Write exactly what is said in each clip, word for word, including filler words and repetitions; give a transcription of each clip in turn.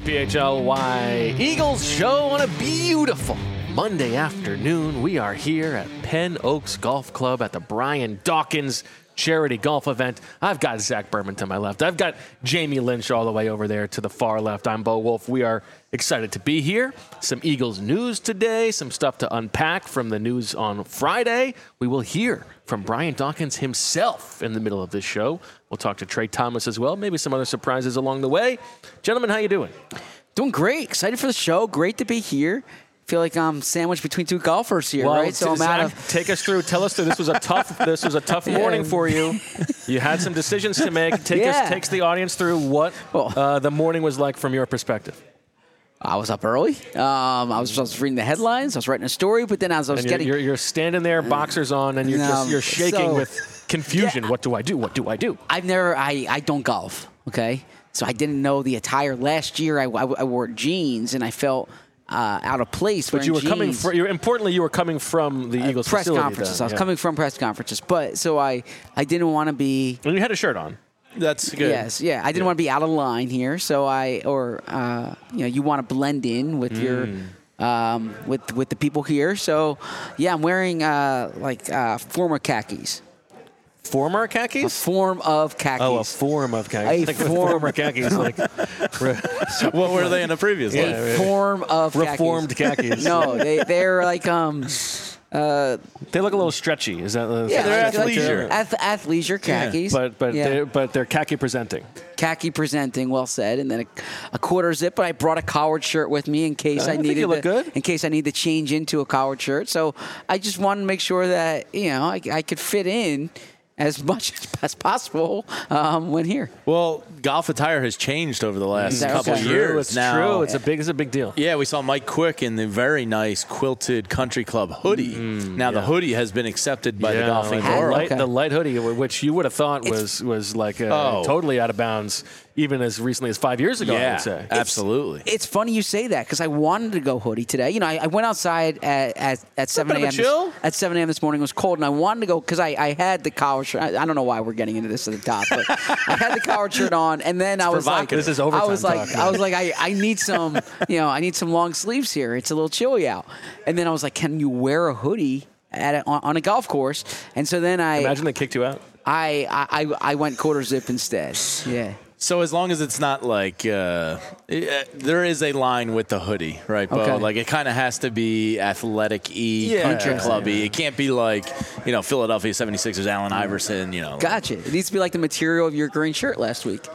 P H L Y Eagles show on a beautiful Monday afternoon. We are here at Penn Oaks Golf Club at the Brian Dawkins charity golf event. I've got Zach Berman to my left. I've got Jamie Lynch all the way over there to the far left. I'm Bo Wolf. We are excited to be here. Some Eagles news today, some stuff to unpack from the news on Friday. We will hear from Brian Dawkins himself in the middle of this show. We'll talk to Trey Thomas as well, maybe some other surprises along the way. Gentlemen, how you doing? Doing great. Excited for the show. Great to be here. Feel like I'm sandwiched between two golfers here, well, right? So I'm Zach, out of. Take us through. Tell us that this was a tough. This was a tough morning Yeah. for you. You had some decisions to make. Take Yeah. us, takes the audience through what uh, the morning was like from your perspective. I was up early. Um, I was, I was reading the headlines. I was writing a story, but then as I was And you're, getting, you're, you're standing there, boxers on, and you're No, just you're shaking so- with confusion. Yeah. What do I do? What do I do? I've never, I, I don't golf. Okay, so I didn't know the attire. Last year, I, I, I wore jeans, and I felt uh, out of place. But you were jeans. coming. Fr- you're, importantly, you were coming from the Eagles press facility. conferences. Then. I was Yeah. coming from press conferences, but so I, I didn't want to be. And you had a shirt on. That's good. Yes, yeah. I didn't Yeah. want to be out of line here, so I, or uh, you know, you want to blend in with your, um, with with the people here. So, yeah, I'm wearing uh, like uh, former khakis, Former a khakis? form of khakis. Oh, a form of khakis. A Like form. former khakis. Like What were they in a previous a life? yeah. form of reformed khakis. khakis. No, they they're like um. Uh, They look a little stretchy. Is that? Uh, yeah, they're like, like athleisure. ath- athleisure khakis. But but yeah. they're, but they're khaki presenting. khaki presenting, well said, and then a, a quarter zip. But I brought a collared shirt with me in case I I, think needed you look to, good. in case I need to change into a collared shirt. So I just wanted to make sure that you know I, I could fit in as much as, as possible um, when here. Well, golf attire has changed over the last That's couple okay. of True, years. it's now. true. It's a big. It's a big deal. Yeah, we saw Mike Quick in the very nice quilted country club hoodie. now the yeah. hoodie has been accepted by the Yeah, golfing like the world. light, Okay. the light hoodie, which you would have thought was was like uh, Oh. totally out of bounds, even as recently as five years ago. I Yeah, would say. absolutely. It's funny you say that because I wanted to go hoodie today. You know, I, I went outside at at, at seven bit of a.m. a chill. This, at seven a.m. this morning. It was cold, and I wanted to go because I, I had the collar shirt. I, I don't know why we're getting into this at the top, but I had the collared shirt on, and then I was like, provocative. This is I overtime was like, talk, I was like, I, I need some, you know, I need some long sleeves here. It's a little chilly out, and then I was like, can you wear a hoodie at a, on, on a golf course? And so then I, Imagine they kicked you out. I, I, I went quarter zip instead. Yeah. So as long as it's not like uh, eh, there is a line with the hoodie, right, Bo? Okay. Like it kind of has to be athletic-y, Yeah. country Yeah. clubby. It can't be like, you know, Philadelphia seventy-sixers, Allen Iverson, you know. Gotcha. It needs to be like the material of your green shirt last week.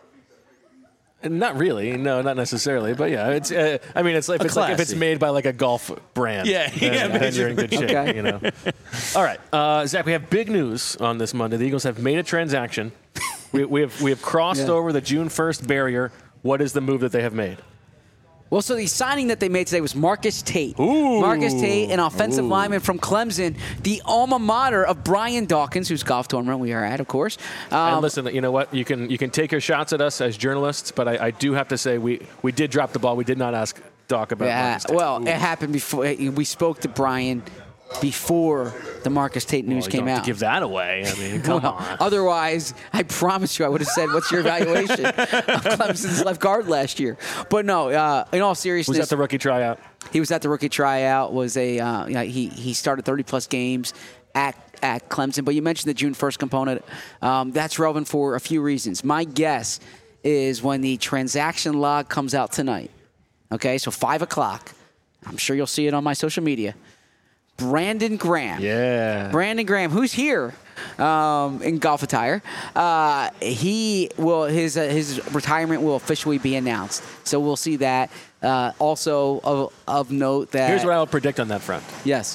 Not really, no, not necessarily, but yeah, it's. Uh, I mean, it's like if A it's like if it's classy. made by like a golf brand. Yeah, then, yeah, then you're in good shape. Okay. You know. All right, uh, Zach, we have big news on this Monday. The Eagles have made a transaction. we, we have we have crossed Yeah. over the June first barrier. What is the move that they have made? Well, so the signing that they made today was Marcus Tate. Ooh. Marcus Tate, an offensive lineman from Clemson, the alma mater of Brian Dawkins, whose golf tournament we are at, of course. Um, And listen, you know what? You can you can take your shots at us as journalists, but I, I do have to say we, we did drop the ball. We did not ask Doc about. yeah, Marcus Tate. well, Ooh. it happened before. We spoke to Brian before the Marcus Tate news Well, you came don't have out. to give that away. I mean, come Well, on. Otherwise, I promise you, I would have said, "What's your evaluation of Clemson's left guard last year?" But no, uh, in all seriousness, Was that the rookie tryout? He was at the rookie tryout. Was a uh, you know, he he started thirty plus games at at Clemson. But you mentioned the June first component. Um, that's relevant for a few reasons. My guess is when the transaction log comes out tonight. Okay, so five o'clock. I'm sure you'll see it on my social media. Brandon Graham. Yeah. Brandon Graham, who's here um, in golf attire, uh, he will his uh, his retirement will officially be announced. So we'll see that. Uh, also of, of note that Here's what I will predict on that front. yes,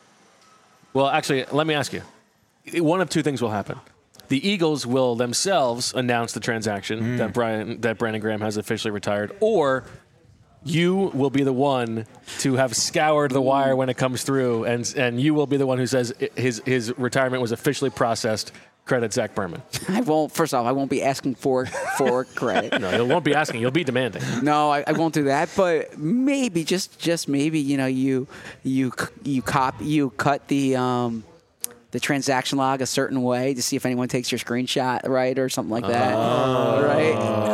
Well, actually, let me ask you. One of two things will happen. The Eagles will themselves announce the transaction that Brian that Brandon Graham has officially retired, or you will be the one to have scoured the wire when it comes through, and and you will be the one who says his his retirement was officially processed. Credit Zach Berman. I won't. First off, I won't be asking for for credit. No, you won't be asking. You'll be demanding. No, I, I won't do that. But maybe, just just maybe, you know, you you you cop you cut the um, the transaction log a certain way to see if anyone takes your screenshot right or something like that. Oh. Right?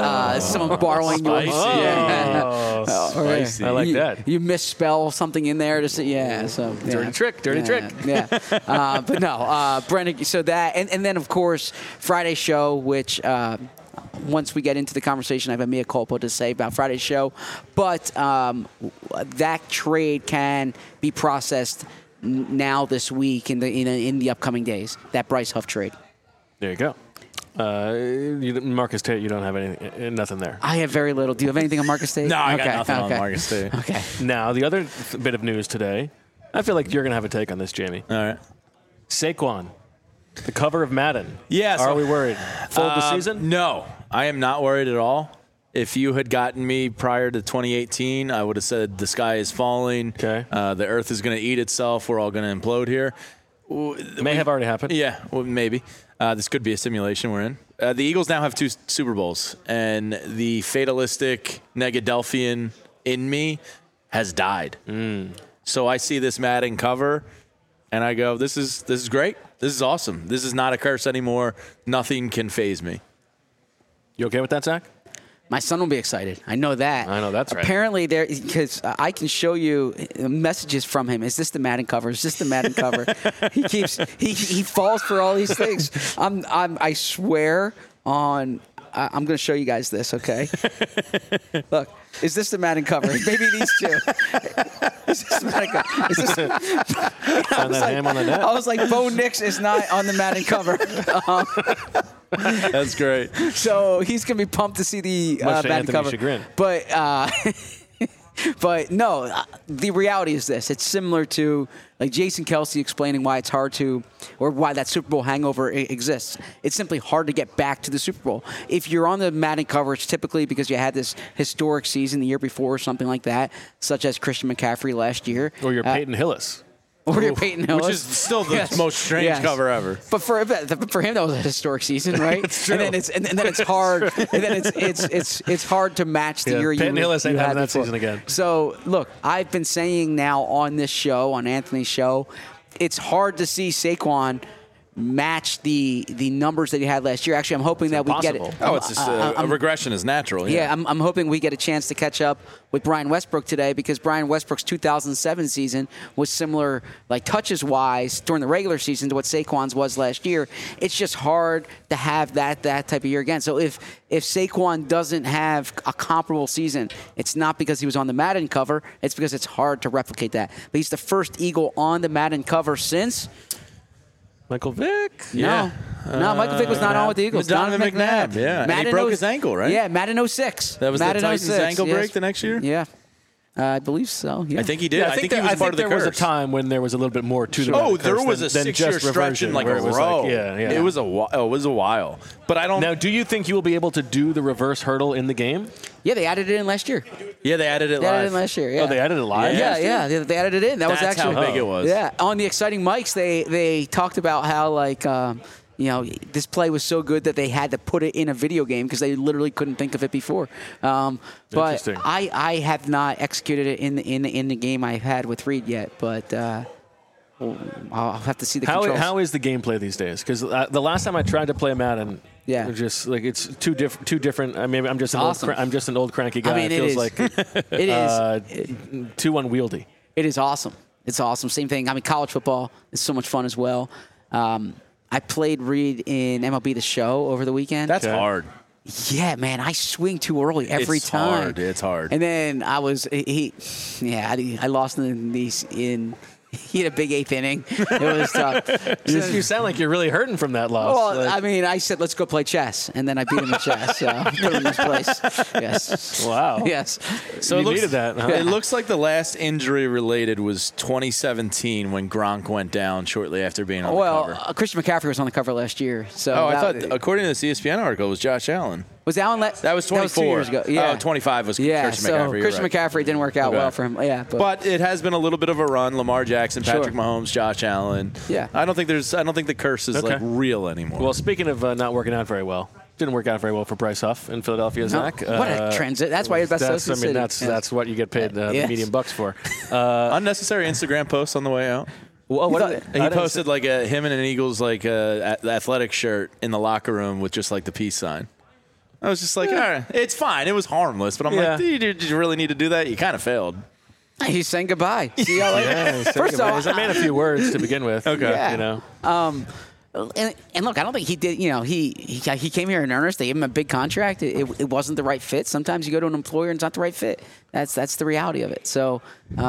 uh, someone borrowing yours. Spicy. Yeah. Oh, Or, yeah, spicy. I like you, that. You misspell something in there to say, yeah. So yeah. Dirty trick, dirty yeah, trick. Yeah. uh, but no, uh, Brendan. So that, and, and then of course Friday's show, which. Uh, Once we get into the conversation, I have a mea culpa to say about Friday's show. But um, that trade can be processed n- now this week in the in, in the upcoming days. That Bryce Huff trade. There you go. Uh, you, Marcus Tate, you don't have any, nothing there. I have very little. Do you have anything on Marcus Tate? No, I okay. got nothing okay. on Marcus Tate. Okay. Now, the other th- bit of news today, I feel like you're going to have a take on this, Jamie. All right. Saquon, the cover of Madden. Yeah, so- Are we worried? Fold the Um, season? No, I am not worried at all. If you had gotten me prior to twenty eighteen, I would have said the sky is falling. Okay. Uh, the earth is going to eat itself. We're all going to implode here. May have already happened. Yeah, well, maybe. Uh, this could be a simulation we're in. Uh, the Eagles now have two Super Bowls, and the fatalistic Negadelphian in me has died. Mm. So I see this Madden cover, and I go, "This is this is great. This is awesome. This is not a curse anymore. Nothing can faze me." You okay with that, Zach? My son will be excited. I know that. I know that's right. Apparently, there because I can show you messages from him. Is this the Madden cover? Is this the Madden cover? He keeps he he falls for all these things. I'm I'm I swear on. I- I'm going to show you guys this. Okay. Look. Is this the Madden cover? Maybe these two. Is this the Madden cover? Is this, Find that ham on the net. I was like, Bo Nix is not on the Madden cover. Um, That's great. So he's gonna be pumped to see the uh, Much to Madden Anthony's cover. chagrin. But uh, but no, uh, the reality is this: it's similar to like Jason Kelsey explaining why it's hard to, or why that Super Bowl hangover I- exists. It's simply hard to get back to the Super Bowl. If you're on the Madden cover, it's typically because you had this historic season the year before or something like that, such as Christian McCaffrey last year, Or your Uh, Peyton Hillis. or your Peyton Hillis, Which is still the Yes. most strange Yes. cover ever. But for for him, that was a historic season, right? It's true. And then it's and, then it's hard. And then it's it's it's it's hard to match the Yeah, year Peyton you, Hillis ain't you having had that before. season again. So look, I've been saying now on this show, on Anthony's show, it's hard to see Saquon match the the numbers that he had last year. Actually, I'm hoping that we get it. impossible. Oh, it's just Uh, a, a regression is natural. Yeah, Yeah. I'm, I'm hoping we get a chance to catch up with Brian Westbrook today because Brian Westbrook's two thousand seven season was similar, like touches wise, during the regular season to what Saquon's was last year. It's just hard to have that that type of year again. So if if Saquon doesn't have a comparable season, it's not because he was on the Madden cover. It's because it's hard to replicate that. But he's the first Eagle on the Madden cover since. Michael Vick. Yeah. No, no, Michael Vick was not on with the Eagles. Donovan Donovan McNabb, yeah. And he Madden broke oh- his ankle, right? Yeah, Madden oh six. That was the Madden Titans' oh six, ankle yes. break the next year? Yeah. Uh, I believe so. Yeah. I think he did. Yeah, I think, there, he was I part think of the there was a curse. time when there was a little bit more to the Oh, Madden there curse was than, a than six-year just stretch reversion, in like where a it was row. Like, yeah, yeah. It was a whi- oh, it was a while, but I don't. Now, do you think you will be able to do the reverse hurdle in the game? Yeah, they added it in last year. yeah, they added it They live. added it in last year. Yeah. Oh, they added it live? Yeah, last year? yeah, they, they added it in. That was That's how actually big it was. Yeah, on the exciting mics, they they talked about how like. Um, you know, this play was so good that they had to put it in a video game because they literally couldn't think of it before. Um, but Interesting. I, I have not executed it in the, in the, in the game I've had with Reed yet. But uh, well, I'll have to see the How, controls. how is the gameplay these days? Because uh, the last time I tried to play Madden, Yeah. it was just like it's two different. Two different. I mean, I'm just an Awesome. old. Cra- I'm just an old cranky guy. I mean, it it feels is. like it is. uh, too unwieldy. It is awesome. It's awesome. Same thing. I mean, college football is so much fun as well. Um, I played Reed in M L B The Show over the weekend. That's Okay. hard. Yeah, man, I swing too early every It's time. hard. It's hard. And then I was he, yeah, I, I lost in these in. He had a big eighth inning. It was tough. You sound like you're really hurting from that loss. Well, Like- I mean, I said let's go play chess, and then I beat him at chess. So put him in his place. Yes. wow. Yes. So You it looks, needed that, huh? It looks like the last injury related was twenty seventeen when Gronk went down shortly after being on Well, the cover. uh, Christian McCaffrey was on the cover last year. So Oh, I that- thought, according to the C S P N article, it was Josh Allen. was Allen. Le- That was twenty-four. two years ago. Yeah. Oh, twenty-five was Yeah. Christian so McCaffrey. you're Christian right. McCaffrey didn't work out Okay. well for him. Yeah. But, But it has been a little bit of a run. Lamar Jackson, Sure. Patrick Mahomes, Josh Allen. Yeah. I don't think there's. I don't think the curse is Okay. like real anymore. Well, speaking of uh, not working out very well, didn't work out very well for Bryce Huff in Philadelphia, Zach. what a Uh, transit. That's why you're the best That's, I host in mean, the city. that's Yes. that's what you get paid uh, Yes. the medium bucks for. Uh, unnecessary Instagram posts on the way out. well, what thought- did- He I didn't posted like a him and an Eagles like uh, a- athletic shirt in the locker room with just like the peace sign. I was just like, all right, it's fine. It was harmless. But I'm Yeah. like, did you, did you really need to do that? You kind of failed. He's saying goodbye. See how Yeah, First off, I made a few words to begin with. Okay. Yeah. You know. Um, and, and look, I don't think he did. You know, he he, he came here in earnest. They gave him a big contract. It, it, it wasn't the right fit. Sometimes you go to an employer and it's not the right fit. That's that's the reality of it. So,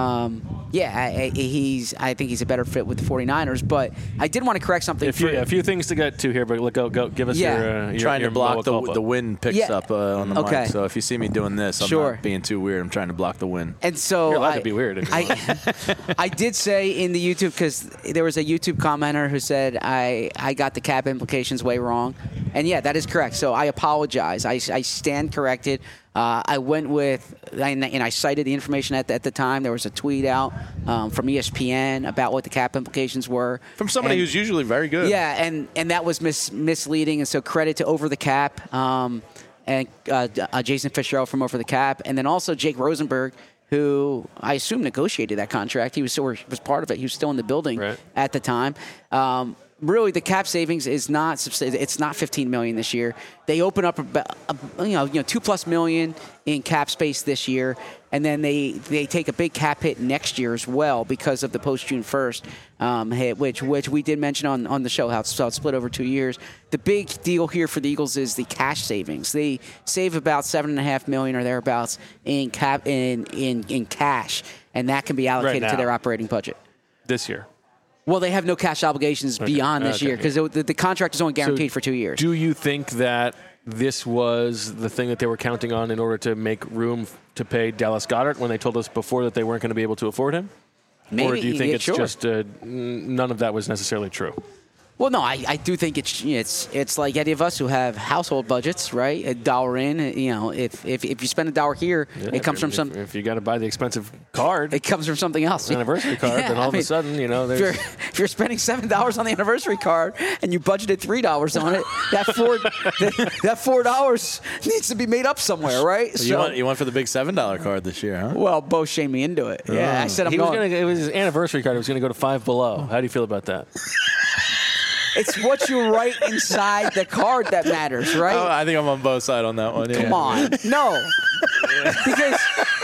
um, yeah, I, I, he's. I think he's a better fit with the 49ers. But I did want to correct something. A few, for, a few things to get to here, but go go give us Yeah. your, uh, your Trying your to block Moa the culpa. the wind picks Yeah. up uh, on the Okay. mic. So if you see me doing this, I'm Sure. not being too weird. I'm trying to block the wind. And so You're allowed I, to be weird if you I, I did say in the YouTube, because there was a YouTube commenter who said I, I got the cap implications way wrong. And yeah, that is correct. So I apologize. I, I stand corrected. Uh, I went with, and, and I cited the information at the, at the time. There was a tweet out um, from E S P N about what the cap implications were. From somebody And- who's usually very good. yeah, and, and that was mis- misleading, and so credit to Over the Cap um, and uh, uh, Jason Fitzgerald from Over the Cap, and then also Jake Rosenberg, who I assume negotiated that contract. He was or was part of it. He was still in the building Right. at the time. Um, really, the cap savings is not subs- it's not fifteen million dollars this year. They open up about a, you know you know two plus million in cap space this year, and then they they take a big cap hit next year as well because of the post June first um, hit, which which we did mention on, on the show how it's, how it's split over two years. The big deal here for the Eagles is the cash savings. They save about seven and a half million or thereabouts in cap in in, in cash, and that can be allocated to now. their operating budget. this year. Well, they have no cash obligations beyond this Okay. year because the, the contract is only guaranteed So for two years. Do you think that this was the thing that they were counting on in order to make room f- to pay Dallas Goedert when they told us before that they weren't going to be able to afford him? Maybe, or do you think yeah, it's sure. just uh, n- none of that was necessarily true? Well, no, I, I do think it's it's it's like any of us who have household budgets, right? A dollar in, you know, if if, if you spend a dollar here, Yeah, it comes if, from if- some. If you got to buy the expensive card, It comes from something else. anniversary card, Yeah, then all I of mean, a sudden, you know, If there's. you're, if you're spending seven dollars on the anniversary card and you budgeted three dollars on it, that four that, that four dollars needs to be made up somewhere, right? You went you went for the big seven dollar card this year, huh? well, Bo shamed me into it. Yeah, I said I'm He was going. gonna. It was his anniversary card. It was going to go to Five Below. How do you feel about that? It's what you write inside the card that matters, right? Oh, I think I'm on both sides on that one. Yeah. Come on. No. Because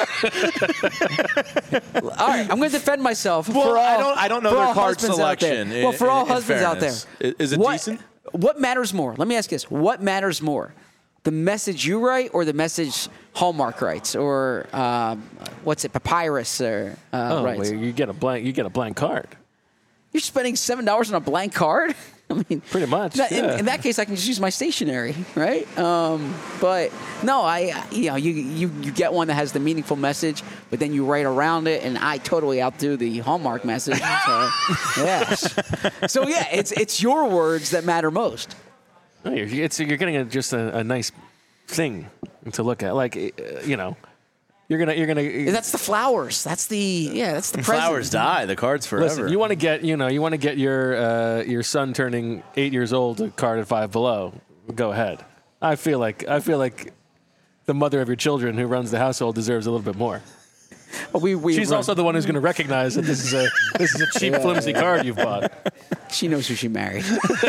all right, I'm going to defend myself. Well, for all, I don't- I don't know for their all card husbands out there. selection, Well, for in- all in husbands out there, fairness. I- is it what, decent? What matters more? Let me ask you this: what matters more, the message you write or the message Hallmark writes, or um, what's it, Papyrus or uh, Oh, writes? well, you get a blank. You get a blank card. You're spending seven dollars on a blank card. I mean, Pretty much, that- in, yeah. in that case, I can just use my stationery, right? Um, but no, I, you know, you, you you get one that has the meaningful message, but then you write around it, and I totally outdo the Hallmark message. So, yes. So yeah, it's it's your words that matter most. No, you're, it's, you're getting a, just a, a nice thing to look at. Like, uh, you know, you're gonna you're gonna. That's the flowers. That's the yeah. That's the present. Flowers die. The card's forever. Listen, you want to get you know you want to get your uh, your son turning eight years old a card at Five Below. Go ahead. I feel like I feel like the mother of your children who runs the household deserves a little bit more. We, we She's run- also the one who's going to recognize that this is a this is a cheap, flimsy card you've bought. She knows who she married.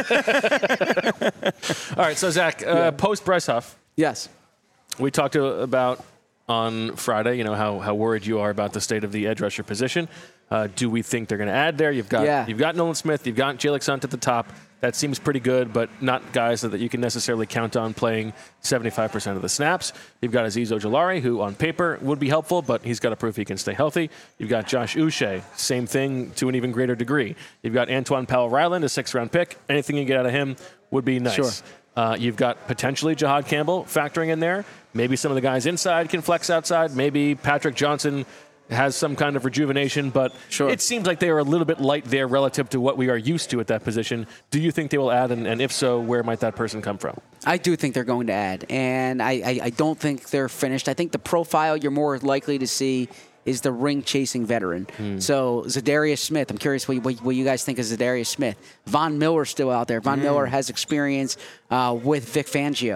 All right, so Zach, uh, post Bryce Huff, Yes. we talked to, about on Friday. You know how how worried you are about the state of the edge rusher position. Uh, do we think they're going to add there? You've got Yeah. you've got Nolan Smith, you've got Jalen Hunt at the top. That seems pretty good, but not guys that you can necessarily count on playing seventy-five percent of the snaps. You've got Azeez Ojulari, who on paper would be helpful, but he's got to prove he can stay healthy. You've got Josh Uche, same thing to an even greater degree. You've got Antoine Powell-Ryland, a sixth-round pick. Anything you get out of him would be nice. Sure. Uh, you've got potentially Jahad Campbell factoring in there. Maybe some of the guys inside can flex outside. Maybe Patrick Johnson has some kind of rejuvenation, but Sure. it seems like they are a little bit light there relative to what we are used to at that position. Do you think they will add, and, and if so, where might that person come from? I do think they're going to add, and I, I, I don't think they're finished. I think the profile you're more likely to see is the ring-chasing veteran. So Zadarius Smith, I'm curious what you, what, what you guys think of Zadarius Smith. Von Miller's still out there. Von Miller has experience uh, with Vic Fangio.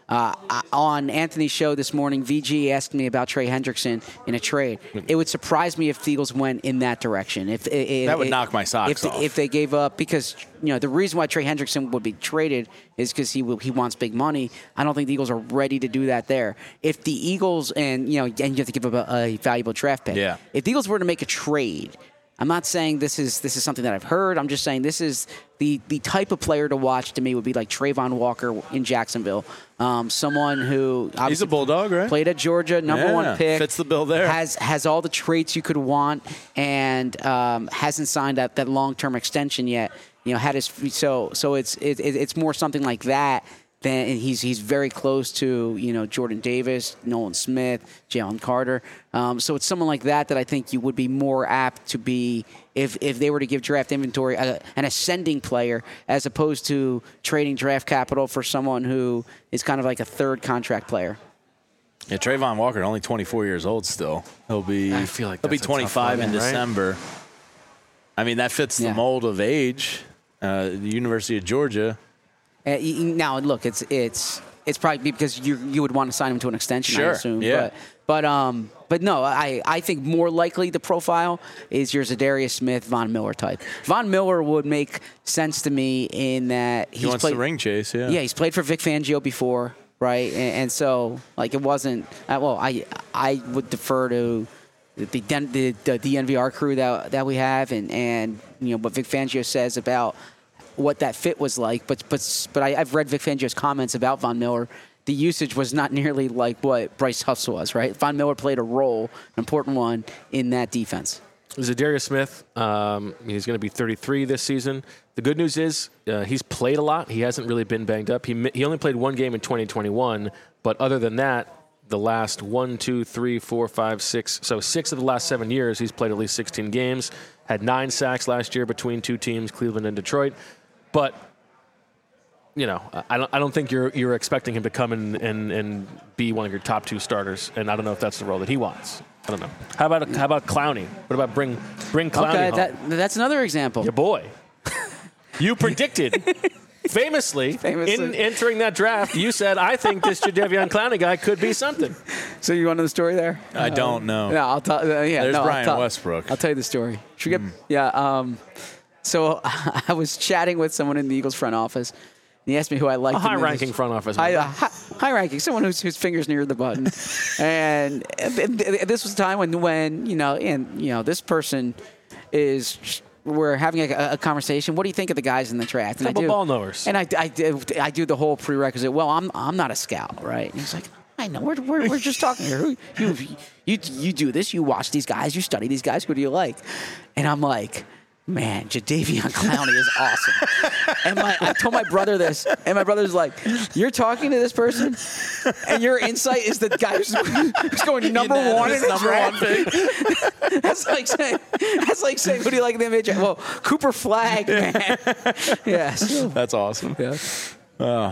Uh, I, on Anthony's show this morning, V G asked me about Trey Hendrickson in a trade. It would surprise me if the Eagles went in that direction. If, if That would if, knock my socks if, off. If they gave up, because you know the reason why Trey Hendrickson would be traded is because he will, he wants big money. I don't think the Eagles are ready to do that there. If the Eagles and you know and you have to give up a, a valuable draft pick. Yeah. If the Eagles were to make a trade. I'm not saying this is this is something that I've heard. I'm just saying this is the, the type of player to watch to me would be like Trayvon Walker in Jacksonville. Um, someone who He's a Bulldog, right? Played at Georgia, number Yeah, one pick. fits the bill there. Has has all the traits you could want, and um, hasn't signed that, that long term extension yet. You know, had his so so it's it, it, it's more something like that. Then he's he's very close to you know Jordan Davis, Nolan Smith, Jalen Carter. Um, so it's someone like that that I think you would be more apt to be if if they were to give draft inventory a, an ascending player as opposed to trading draft capital for someone who is kind of like a third contract player. Yeah, Trayvon Walker, only twenty-four years old still. He'll be I feel like he'll be that's a tough twenty-five in one, right? December. I mean, that fits the Yeah. mold of age. Uh, the University of Georgia. Uh, y- y- now, look, it's it's it's probably because you you would want to sign him to an extension, I Sure, assume. yeah. But but um but no, I, I think more likely the profile is your Zadarius Smith, Von Miller type. Von Miller would make sense to me in that he's He wants played, the ring chase, yeah. Yeah, he's played for Vic Fangio before, right? And, and so like it wasn't uh, well, I I would defer to the Den- the, the the N V R crew that that we have and and you know what Vic Fangio says about what that fit was like, but but but I, I've read Vic Fangio's comments about Von Miller. The usage was not nearly like what Bryce Huff's was, right? Von Miller played a role, an important one, in that defense. Zadarius Smith, um, he's going to be thirty-three this season. The good news is uh, he's played a lot. He hasn't really been banged up. He mi- he only played one game in twenty twenty-one, but other than that, the last one, two, three, four, five, six, so six of the last seven years, he's played at least sixteen games. Had nine sacks last year between two teams, Cleveland and Detroit. But, you know, I don't, I don't think you're you're expecting him to come in and, and be one of your top two starters, and I don't know if that's the role that he wants. I don't know. How about how about Clowney? What about bring bring Clowney Okay, home? that, that's another example. Your boy. You predicted, famously, Famously. in entering that draft, you said, I think this Jadeveon Clowney guy could be something. So you want to know the story there? I don't know. Yeah, I'll tell. Uh, yeah, There's no, Brian I'll tell, Westbrook. I'll tell you the story. Should we get? Yeah. Um, so I was chatting with someone in the Eagles front office. And he asked me who I liked. A high-ranking front office. High, uh, high, high ranking, someone whose whose fingers near the button. And this was a time when when you know, and you know, this person is. We're having a, a conversation. What do you think of the guys in the draft? And Couple I do, ball knowers. And I, I, do, I do the whole prerequisite. Well, I'm I'm not a scout, right? And he's like, I know. We're, we're, we're just talking here. Who- You, you you do this. You watch these guys. You study these guys. Who do you like? And I'm like, man, Jadeveon Clowney is awesome. And my, I told my brother this, and my brother's like, you're talking to this person, and your insight is the guy who's, who's going number one in the number draft. one pick. That's like saying, that's like saying, who do you like in the N B A? Well, Cooper Flagg, man. Yes. That's awesome. Yeah. Uh,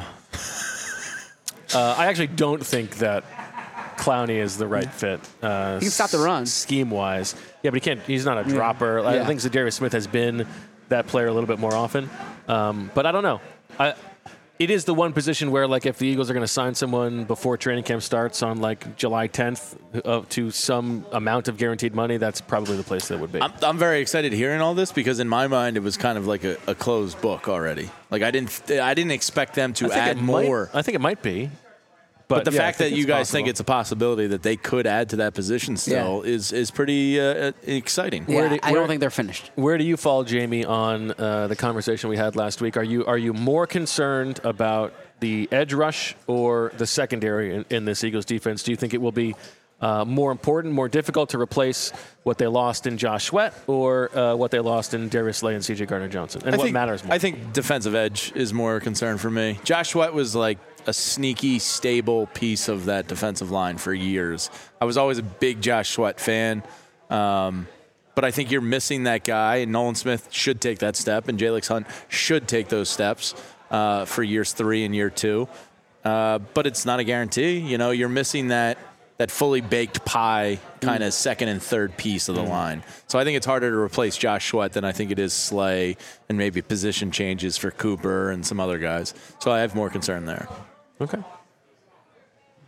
I actually don't think that Clowney is the right fit. Uh, He can stop the run. scheme wise. Yeah, but he can't. He's not a dropper. I Yeah. think Zadarius Smith has been that player a little bit more often. Um, but I don't know. I, it is the one position where, like, if the Eagles are going to sign someone before training camp starts on like July tenth uh, to some amount of guaranteed money, that's probably the place that would be. I'm, I'm very excited hearing all this because in my mind it was kind of like a, a closed book already. Like I didn't I didn't expect them to I think add it might- more. I think it might be. But, But the yeah, I fact think that you it's guys possible. think it's a possibility that they could add to that position still is is pretty uh, exciting. Yeah, Where do- I where- don't think they're finished. Where do you fall, Jamie, on uh, the conversation we had last week? Are you are you more concerned about the edge rush or the secondary in, in this Eagles defense? Do you think it will be uh, more important, more difficult to replace what they lost in Josh Sweat or uh, what they lost in Darius Slay and C J Gardner-Johnson? And I what think, matters more? I think defensive edge is more a concern for me. Josh Sweat was like a sneaky, stable piece of that defensive line for years. I was always a big Josh Sweat fan. Um, but I think you're missing that guy, and Nolan Smith should take that step, and Jalix Hunt should take those steps uh, for years three and year two. Uh, but it's not a guarantee. You know, you're missing that that fully baked pie kind of mm. second and third piece of the mm. line. So I think it's harder to replace Josh Sweat than I think it is Slay and maybe position changes for Cooper and some other guys. So I have more concern there. Okay.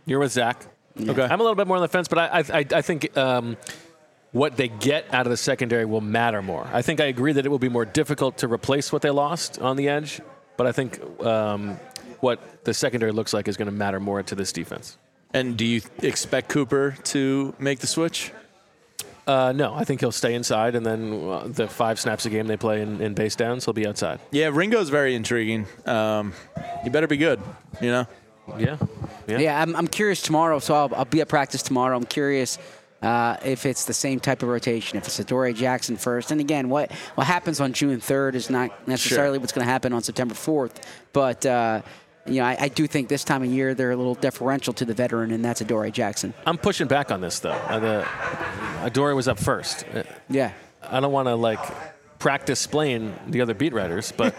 You're with Zach. Okay. I'm a little bit more on the fence, but I, I, I think um, what they get out of the secondary will matter more. I think I agree that it will be more difficult to replace what they lost on the edge, but I think um, what the secondary looks like is going to matter more to this defense. And do you expect Cooper to make the switch? Uh, no, I think he'll stay inside, and then uh, the five snaps a game they play in, in base downs, he'll be outside. Yeah, Ringo's very intriguing. Um, he better be good, you know? Yeah. Yeah. Yeah, I'm, I'm curious tomorrow, so I'll, I'll be at practice tomorrow. I'm curious uh, if it's the same type of rotation, if it's Adoree Jackson first. And again, what, what happens on June third is not necessarily Sure. what's going to happen on September fourth. But, uh, you know, I, I do think this time of year they're a little deferential to the veteran, and that's Adoree Jackson. I'm pushing back on this, though. Uh, the, Adoree was up first. Uh, Yeah. I don't want to, like, practice explain the other beat writers, but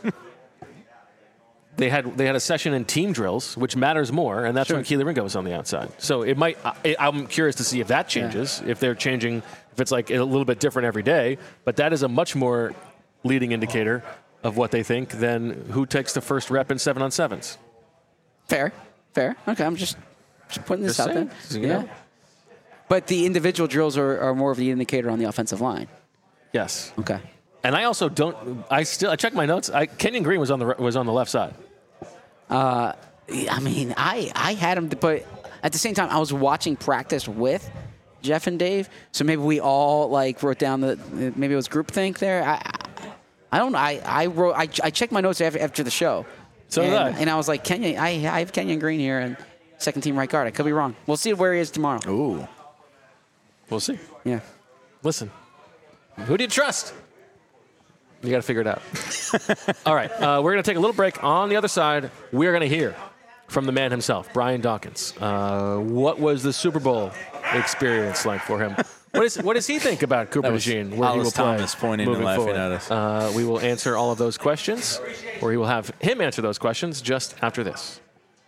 they had they had a session in team drills, which matters more, and that's Sure. when Keely Ringo was on the outside. So it might. I, I'm curious to see if that changes, if they're changing, if it's like a little bit different every day. But that is a much more leading indicator of what they think than who takes the first rep in seven on sevens. Fair. Fair. Okay, I'm just, just putting this Just out saying. there. You Yeah. know? But the individual drills are, are more of the indicator on the offensive line. Yes. Okay. And I also don't. I still. I checked my notes. I, Kenyon Green was on the was on the left side. I mean, I, I had him, to, but at the same time, I was watching practice with Jeff and Dave, so maybe we all like wrote down the maybe it was groupthink there. I, I, I don't know. I, I wrote. I, I checked my notes after, after the show. So and, did I. and I was like, Kenyon. I, I have Kenyon Green here and second team right guard. I could be wrong. We'll see where he is tomorrow. Ooh. We'll see. Yeah. Listen, who do you trust? You got to figure it out. All right, uh, we're going to take a little break. On the other side, we're going to hear from the man himself, Brian Dawkins. Uh, what was the Super Bowl experience like for him? What, is, what does he think about Cooper That was DeJean? Where he Hollis will play Thomas pointing and moving laughing forward? at us. Uh, we will answer all of those questions, or he will have him answer those questions just after this.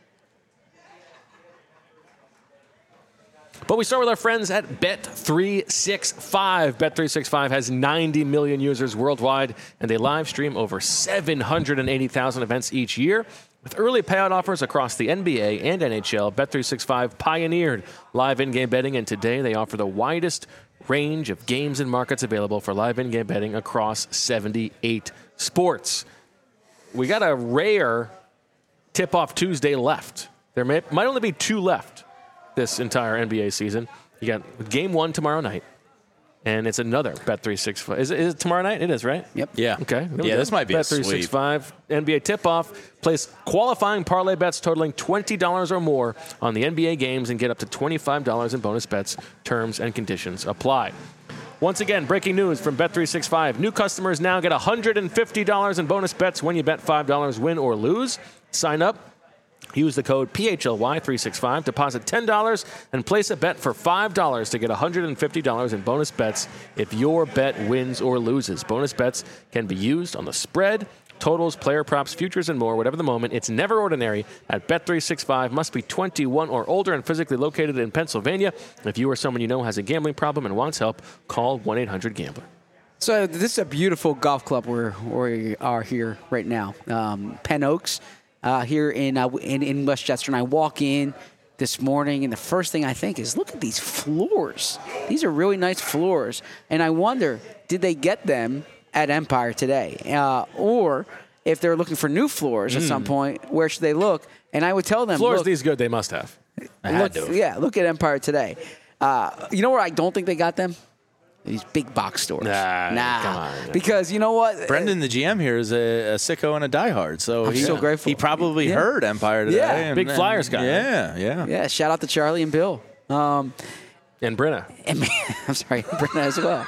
But we start with our friends at Bet three sixty-five. Bet three sixty-five has ninety million users worldwide, and they live stream over seven hundred eighty thousand events each year. With early payout offers across the N B A and N H L, Bet three sixty-five pioneered live in-game betting, and today they offer the widest range of games and markets available for live in-game betting across seventy-eight sports. We got a rare tip-off Tuesday left. There may, might only be two left this entire N B A season. You got game one tomorrow night, and it's another Bet three sixty-five. Is it, is it tomorrow night? It is, right? Yep. Yeah. Okay. there we Yeah, go. this might be Bet a three sweep. sixty-five N B A tip-off. Place qualifying parlay bets totaling twenty dollars or more on the N B A games and get up to twenty-five dollars in bonus bets. Terms and conditions apply. Once again, breaking news from Bet three sixty-five. New customers now get one hundred fifty dollars in bonus bets when you bet five dollars, win or lose. Sign up. Use the code P H L Y three sixty-five, deposit ten dollars, and place a bet for five dollars to get one hundred fifty dollars in bonus bets if your bet wins or loses. Bonus bets can be used on the spread, totals, player props, futures, and more, whatever the moment. It's never ordinary at Bet three sixty-five. Must be twenty-one or older and physically located in Pennsylvania. If you or someone you know has a gambling problem and wants help, call one eight hundred gambler. So this is a beautiful golf club where we are here right now. Um, Penn Oaks. Uh, here in, uh, in in Westchester, and I walk in this morning, and the first thing I think is, look at these floors. These are really nice floors, and I wonder, did they get them at Empire today, uh, or if they're looking for new floors at some point, where should they look? And I would tell them, Floors look, these good, they must have. I had look, to. yeah, look at Empire today. Uh, you know where I don't think they got them? These big box stores. Nah, nah. come on. Because you know what? Brendan, the G M here, is a, a sicko and a diehard. So I'm he, so grateful. He probably Yeah. heard Empire today. Yeah. and- Big and- Flyers guy. Yeah, yeah. Yeah, shout out to Charlie and Bill. Um, And Brenna. and I'm sorry, Brenna as well.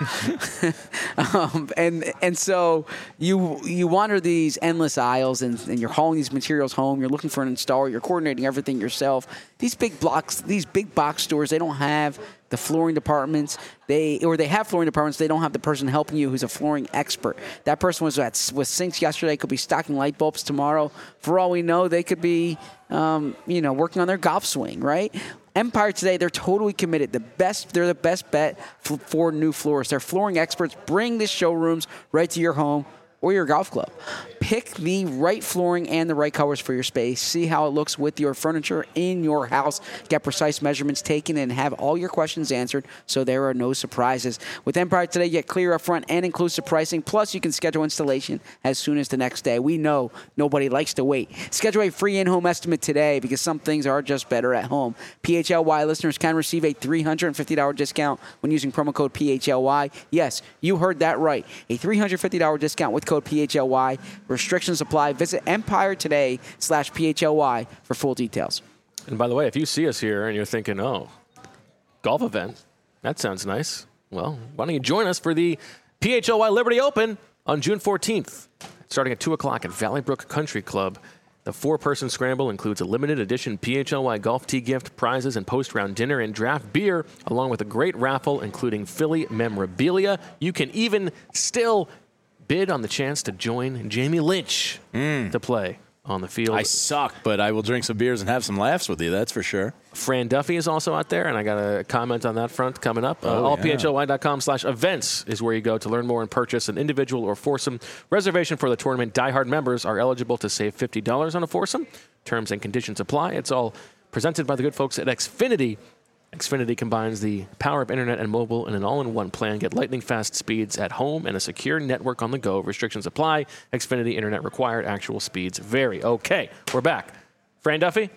um, and and so you you wander these endless aisles, and, and you're hauling these materials home. You're looking for an installer. You're coordinating everything yourself. These big blocks, these big box stores, they don't have the flooring departments. They or they have flooring departments. They don't have the person helping you who's a flooring expert. That person was at with sinks yesterday. Could be stocking light bulbs tomorrow. For all we know, they could be um, you know working on their golf swing, right? Empire today, they're totally committed. The best, they're the best bet f- for new floors. They're flooring experts. Bring the showrooms right to your home. or your golf club. Pick the right flooring and the right colors for your space. See how it looks with your furniture in your house. Get precise measurements taken and have all your questions answered so there are no surprises. With Empire Today, get clear upfront and inclusive pricing. Plus, you can schedule installation as soon as the next day. We know nobody likes to wait. Schedule a free in-home estimate today because some things are just better at home. P H L Y listeners can receive a three hundred fifty dollars discount when using promo code P H L Y. Yes, you heard that right. A three hundred fifty dollars discount with code P H L Y. Restrictions apply. Visit Empire Today slash P H L Y for full details. And by the way, if you see us here and you're thinking, oh, golf event, that sounds nice. Well, why don't you join us for the P H L Y Liberty Open on June fourteenth, starting at two o'clock at Valley Brook Country Club. The four-person scramble includes a limited edition P H L Y golf tee gift, prizes, and post-round dinner and draft beer, along with a great raffle including Philly memorabilia. You can even still bid on the chance to join Jamie Lynch mm. to play on the field. I suck, but I will drink some beers and have some laughs with you, that's for sure. Fran Duffy is also out there, and I got a comment on that front coming up. Oh, uh, all yeah. P H L Y dot com slash events is where you go to learn more and purchase an individual or foursome reservation for the tournament. Diehard members are eligible to save fifty dollars on a foursome. Terms and conditions apply. It's all presented by the good folks at Xfinity. Xfinity combines the power of internet and mobile in an all-in-one plan. Get lightning-fast speeds at home and a secure network on the go. Restrictions apply. Xfinity internet required. Actual speeds vary. Okay, we're back. Fran Duffy?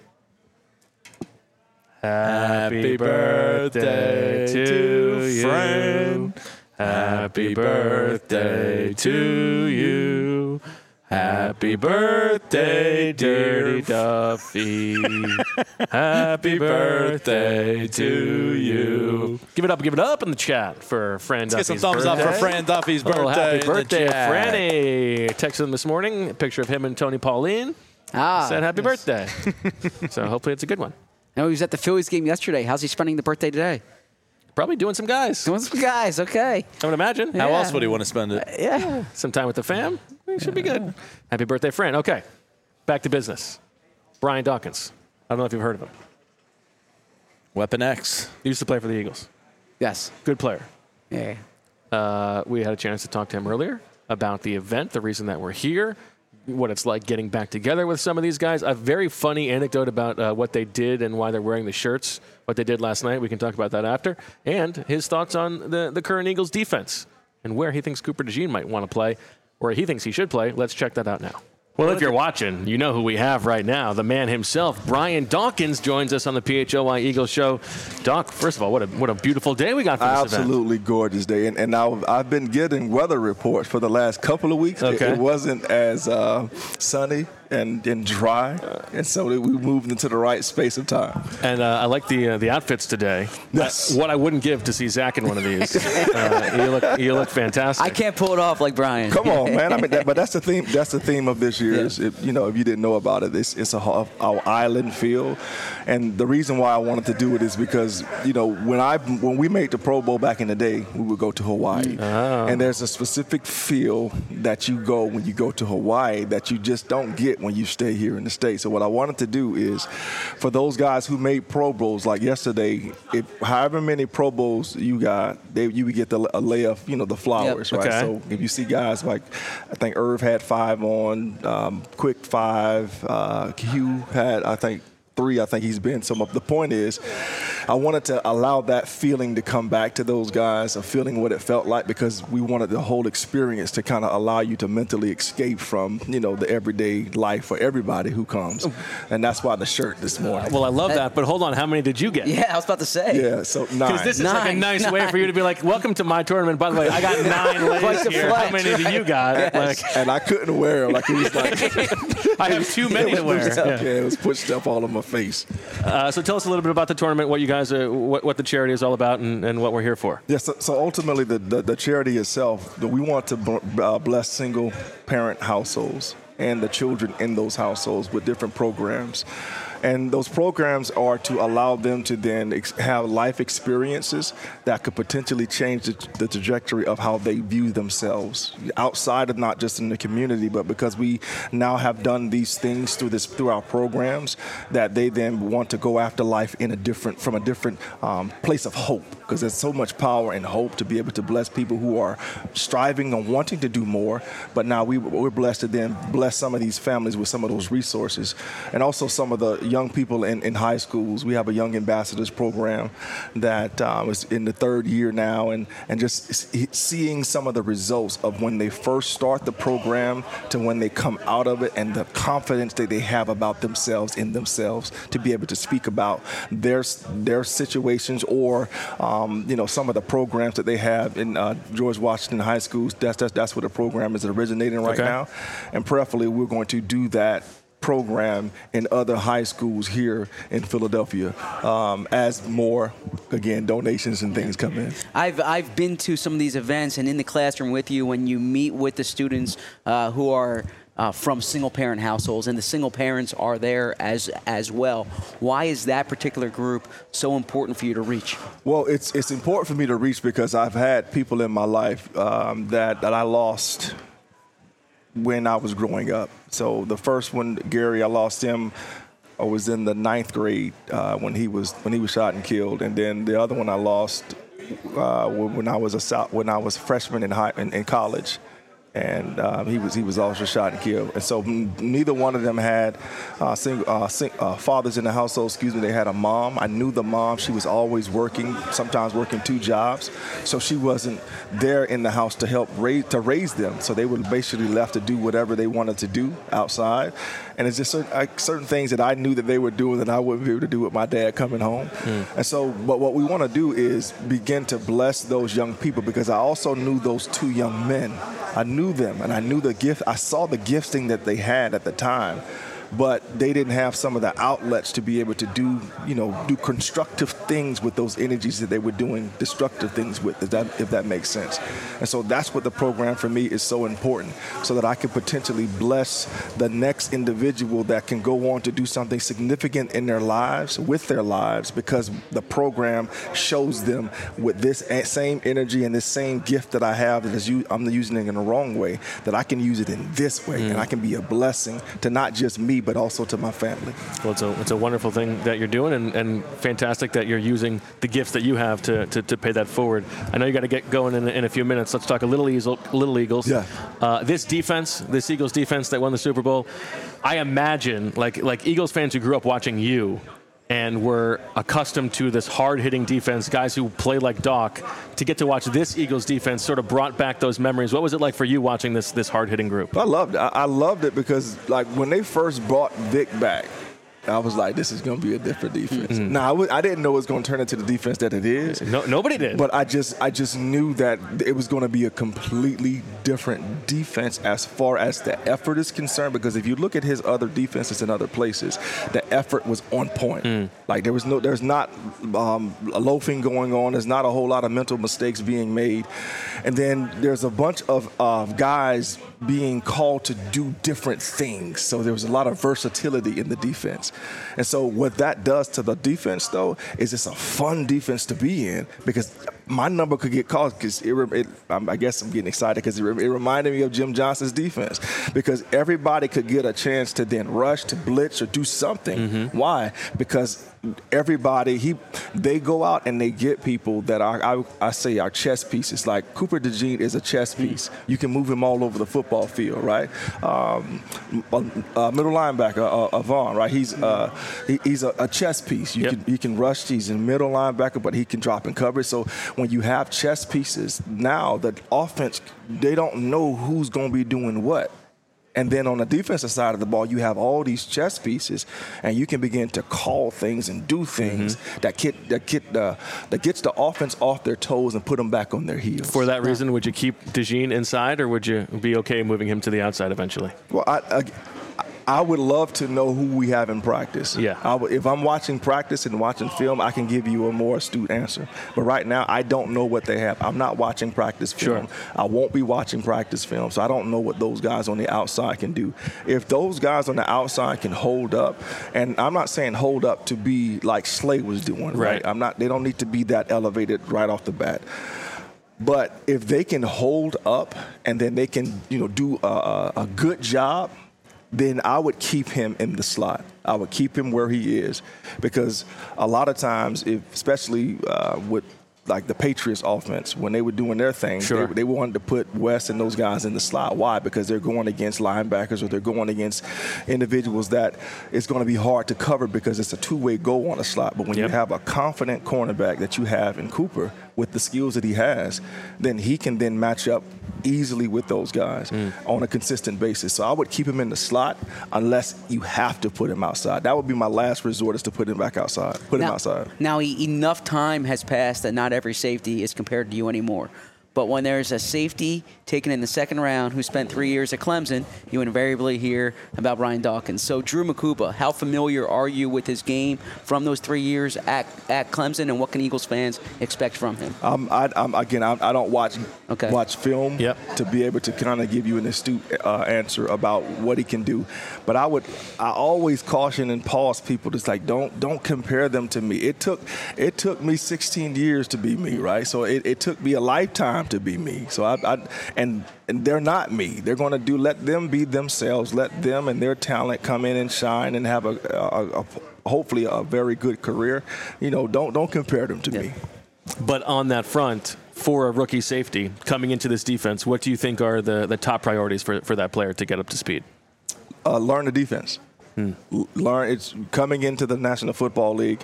Happy birthday to you. Fran. Happy birthday to you. Happy birthday, Dirty Duffy. Happy birthday to you. Give it up, give it up in the chat for Fran Let's Duffy's get some thumbs birthday. up for Fran Duffy's birthday. Oh, happy in birthday, the chat. Franny. Texted him this morning, a picture of him and Tony Pauline. Ah, Said happy yes. birthday. So hopefully it's a good one. No, he was at the Phillies game yesterday. How's he spending the birthday today? Probably doing some guys. Doing some guys, okay. I would imagine. How Yeah. else would he want to spend it? Yeah. Some time with the fam. It should be good. Happy birthday, Fran. Okay, back to business. Brian Dawkins. I don't know if you've heard of him. Weapon X. He used to play for the Eagles. Yes. Good player. Yeah. Uh, we had a chance to talk to him earlier about the event, the reason that we're here, what it's like getting back together with some of these guys. A very funny anecdote about uh, what they did and why they're wearing the shirts, what they did last night. We can talk about that after. And his thoughts on the, the current Eagles defense and where he thinks Cooper DeJean might want to play, or he thinks he should play. Let's check that out now. Well, if you're watching, you know who we have right now. The man himself, Brian Dawkins, joins us on the P H L Y Eagles show. Doc, first of all, what a what a beautiful day we got for this event. Absolutely gorgeous day. And, and now I've been getting weather reports for the last couple of weeks. Okay. It, it wasn't as uh, sunny and, and dry. And so we moved into the right space of time. And uh, I like the uh, the outfits today. Yes. Uh, what I wouldn't give to see Zach in one of these. uh, you look you look fantastic. I can't pull it off like Brian. Come on, man. I mean, that, but that's the theme. That's the theme of this year. Yeah. Is if, you know, if you didn't know about it, it's, it's a ho- our island feel, and the reason why I wanted to do it is because you know when I when we made the Pro Bowl back in the day, we would go to Hawaii, Oh. and there's a specific feel that you go when you go to Hawaii that you just don't get when you stay here in the States. So what I wanted to do is, for those guys who made Pro Bowls, like yesterday, if however many Pro Bowls you got, they you would get the a lay of you know the flowers, Yep. right? Okay. So if you see guys like, I think Irv had five on, um, Quick five, uh, Hugh had, I think, three. I think he's been some of. The point is, I wanted to allow that feeling to come back to those guys, of feeling what it felt like, because we wanted the whole experience to kind of allow you to mentally escape from, you know, the everyday life for everybody who comes. And that's why the shirt this morning. well, I love that, but hold on. How many did you get? Yeah, I was about to say. Yeah, so nine. Because this is like a Nine. nice way for you to be like, welcome to my tournament. By the way, I got nine Like lays the here. flex. How many do you got? Like, and I couldn't wear them. Like, it was like, I have too many it to was wear. pushed up. Yeah. Yeah, it was pushed up all on my face. Uh, so tell us a little bit about the tournament, what you guys, are, what, what the charity is all about, and, and what we're here for. Yes, so, so ultimately the, the, the charity itself, we want to b- uh, bless single parent households and the children in those households with different programs. And those programs are to allow them to then ex- have life experiences that could potentially change the, the trajectory of how they view themselves outside of not just in the community, but because we now have done these things through this through our programs, that they then want to go after life in a different from a different um, place of hope. because there's so much power and hope to be able to bless people who are striving and wanting to do more. But now we, we're blessed to then bless some of these families with some of those resources. And also some of the young people in, in high schools. We have a Young Ambassadors program that um, is in the third year now, and, and just seeing some of the results of when they first start the program to when they come out of it, and the confidence that they have about themselves in themselves to be able to speak about their their situations, or um, you know, some of the programs that they have in uh, George Washington High Schools. That's, that's that's where the program is originating right okay. now, and prayerfully we're going to do that program in other high schools here in Philadelphia um, as more, again, donations and things come in. I've I've been to some of these events and in the classroom with you when you meet with the students uh, who are uh, from single-parent households, and the single parents are there as as well. Why is that particular group so important for you to reach? Well, it's it's important for me to reach because I've had people in my life um, that, that I lost when I was growing up. So the first one, Gary, I lost him. I was in the ninth grade uh, when he was when he was shot and killed, and then the other one I lost uh, when I was a when I was a freshman in high in, in college, and um, he was he was also shot and killed. And so m- neither one of them had uh, single, uh, sing, uh, fathers in the household. Excuse me. They had a mom. I knew the mom. She was always working, sometimes working two jobs. So she wasn't there in the house to help raise to raise them. So they were basically left to do whatever they wanted to do outside. And it's just certain, like, certain things that I knew that they were doing that I wouldn't be able to do with my dad coming home. Mm. And so, but what we want to do is begin to bless those young people, because I also knew those two young men. I knew them, and I knew the gift. I saw the gifting that they had at the time, but they didn't have some of the outlets to be able to do, you know, do constructive things with those energies that they were doing destructive things with, if that, if that makes sense. And so that's what the program for me is so important, so that I can potentially bless the next individual that can go on to do something significant in their lives, with their lives, because the program shows them with this same energy and this same gift that I have, that is you, I'm using it in the wrong way, that I can use it in this way, mm. and I can be a blessing to not just me, but also to my family. Well, it's a, it's a wonderful thing that you're doing, and, and fantastic that you're using the gifts that you have to, to, to pay that forward. I know you got to get going in, in a few minutes. Let's talk a little, Eagle, little Eagles. Yeah. Uh, this defense, this Eagles defense that won the Super Bowl, I imagine, like like Eagles fans who grew up watching you and were accustomed to this hard-hitting defense, guys who play like Doc, to get to watch this Eagles defense sort of brought back those memories. What was it like for you watching this this hard-hitting group? I loved it. I, I loved it because, like, when they first brought Vic back, I was like, this is going to be a different defense. Mm-hmm. Now, I, w- I didn't know it was going to turn into the defense that it is. No, nobody did. But I just I just knew that it was going to be a completely different defense as far as the effort is concerned, because if you look at his other defenses in other places, the effort was on point. Mm. Like, there was no, there's not um, loafing going on. There's not a whole lot of mental mistakes being made. And then there's a bunch of uh, guys being called to do different things. So there was a lot of versatility in the defense. And so what that does to the defense, though, is it's a fun defense to be in, because my number could get called, because it, it, I guess I'm getting excited because it, it reminded me of Jim Johnson's defense, because everybody could get a chance to then rush, to blitz, or do something. Mm-hmm. Why? Because everybody, he, they go out and they get people that are, I, I say, are chess pieces. Like Cooper DeJean is a chess piece. You can move him all over the football field, right? Um, uh, middle linebacker, uh, uh, Vaughn, right? He's uh, he, he's a, a chess piece. You yep. can he can rush. He's a middle linebacker, but he can drop in coverage. So when you have chess pieces, now the offense, they don't know who's going to be doing what. And then on the defensive side of the ball, you have all these chess pieces, and you can begin to call things and do things mm-hmm. that get that get the that gets the offense off their toes and put them back on their heels. For that reason, would you keep DeJean inside, or would you be okay moving him to the outside eventually? Well, I. I I would love to know who we have in practice. Yeah. I would, if I'm watching practice and watching film, I can give you a more astute answer. But right now, I don't know what they have. I'm not watching practice film. Sure. I won't be watching practice film, so I don't know what those guys on the outside can do. If those guys on the outside can hold up, and I'm not saying hold up to be like Slay was doing, right? right? I'm not. They don't need to be that elevated right off the bat. But if they can hold up and then they can, you know, do a, a good job, then I would keep him in the slot. I would keep him where he is, because a lot of times, if, especially uh, with like the Patriots offense, when they were doing their thing, Sure. they, they wanted to put West and those guys in the slot. Why? Because they're going against linebackers or they're going against individuals that it's going to be hard to cover because it's a two-way goal on a slot. But when Yep. you have a confident cornerback that you have in Cooper with the skills that he has, then he can then match up easily with those guys Mm. on a consistent basis. So I would keep him in the slot unless you have to put him outside. That would be my last resort, is to put him back outside. Put him now, outside. Now, e- enough time has passed that not every safety is compared to you anymore. But when there's a safety taken in the second round who spent three years at Clemson, you invariably hear about Brian Dawkins. So, Drew Makuba, how familiar are you with his game from those three years at, at Clemson, and what can Eagles fans expect from him? Um, I, I'm, again, I, I don't watch Okay. watch film Yep. to be able to kind of give you an astute uh, answer about what he can do. But I would, I always caution and pause people. Just like don't don't compare them to me. It took it took me sixteen years to be me, right? So it, it took me a lifetime to be me. So I, I and and they're not me. They're going to do. Let them be themselves. Let them and their talent come in and shine and have a, a, a hopefully a very good career. You know, don't don't compare them to Yeah. me. But on that front, for a rookie safety coming into this defense, what do you think are the, the top priorities for, for that player to get up to speed? Uh, learn the defense. L- Learn. It's coming into the National Football League.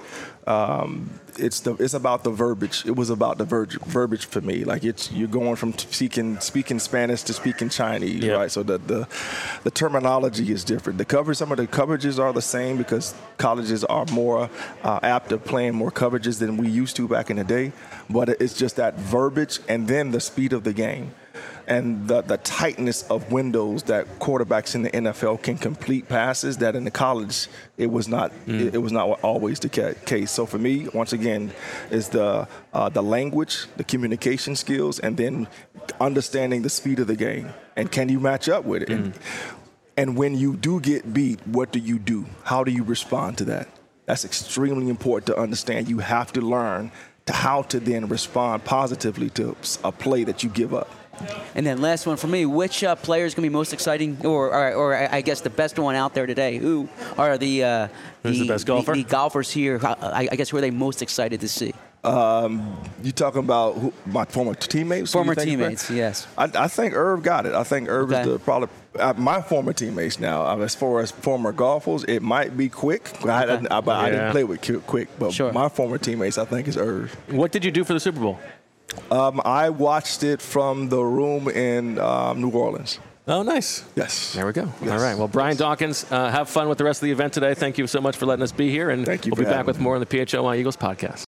Um, it's the. It's about the verbiage. It was about the verge, verbiage for me. Like it's you're going from speaking speaking Spanish to speaking Chinese, Yep. right? So the, the the terminology is different. The coverage. Some of the coverages are the same because colleges are more uh, apt at playing more coverages than we used to back in the day. But it's just that verbiage and then the speed of the game. And the, the tightness of windows that quarterbacks in the N F L can complete passes that in the college it was not it, it was not always the ca- case. So for me, once again, is the uh, the language, the communication skills, and then understanding the speed of the game and can you match up with it. And, and when you do get beat, what do you do? How do you respond to that? That's extremely important to understand. You have to learn to how to then respond positively to a play that you give up. And then last one for me, which uh, player is going to be most exciting, or, or, or I guess the best one out there today? Who are the uh, Who's the best golfer? The, the golfers here? I, I guess who are they most excited to see? Um, you talking about who, my former teammates? Who Former you think is teammates, better? yes. I, I think Irv got it. I think Irv Okay. is the probably uh, my former teammates now. Uh, as far as former golfers, it might be Quick. I, Okay. I, I, I Yeah. didn't play with Q- Quick, but Sure. my former teammates, I think, is Irv. What did you do for the Super Bowl? Um, I watched it from the room in um, New Orleans. Oh, nice. Yes. There we go. Yes. All right. Well, Brian Dawkins, uh, have fun with the rest of the event today. Thank you so much for letting us be here, and Thank you we'll for be back having with me. more on the P H O Y Eagles podcast.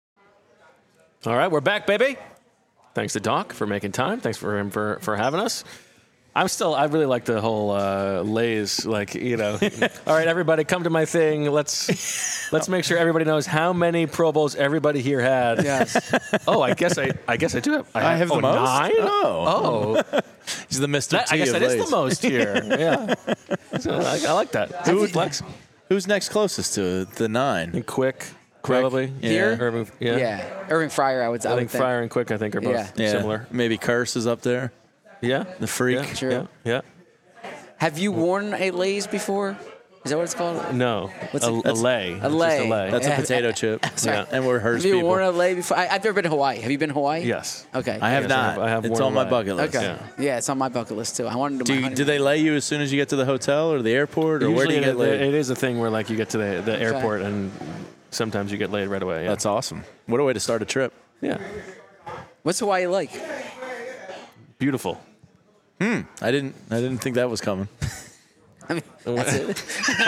All right, we're back, baby. Thanks to Doc for making time. Thanks for him for, for having us. I'm still, I really like the whole uh, Lays, like, you know. All right, everybody, come to my thing. Let's let's make sure everybody knows how many Pro Bowls everybody here had. Yes. Oh, I guess I, I guess I do have. I have the oh, most? Nine? Oh. Oh, He's the Mister that, T I guess of that is Lays. the most here. Yeah, so I, I like that. Who- Good flex Who's next closest to the nine? and quick, probably. Yeah. Here? Irving, yeah. Yeah. Irving Fryer, I would, I I would think think. Fryer and Quick, I think, are both Yeah. Yeah. similar. Maybe Curse is up there. Yeah, The freak. Yeah, True. Yeah, yeah. Have you worn a Lays before? Is that what it's called? No, What's a, it- a lay. A It's just lay. a lay. That's Yeah. a potato chip. Sorry. Yeah. And we're hers Have you people. worn a lay before? I, I've never been to Hawaii. Have you been to Hawaii? Yes. Okay. I have Yes, I not. have- I have it's worn on a my lay. bucket list. Okay. Yeah. Yeah. it's on my bucket list too. I wanted to do, Do, my you, honeymoon. do they lay you as soon as you get to the hotel or the airport, or where do Usually you get it, laid? it is a thing where like you get to the, the airport and sometimes you get laid right away. Yeah. That's awesome. What a way to start a trip. yeah. What's Hawaii like? Beautiful. I didn't. I didn't think that was coming. I mean, that's it.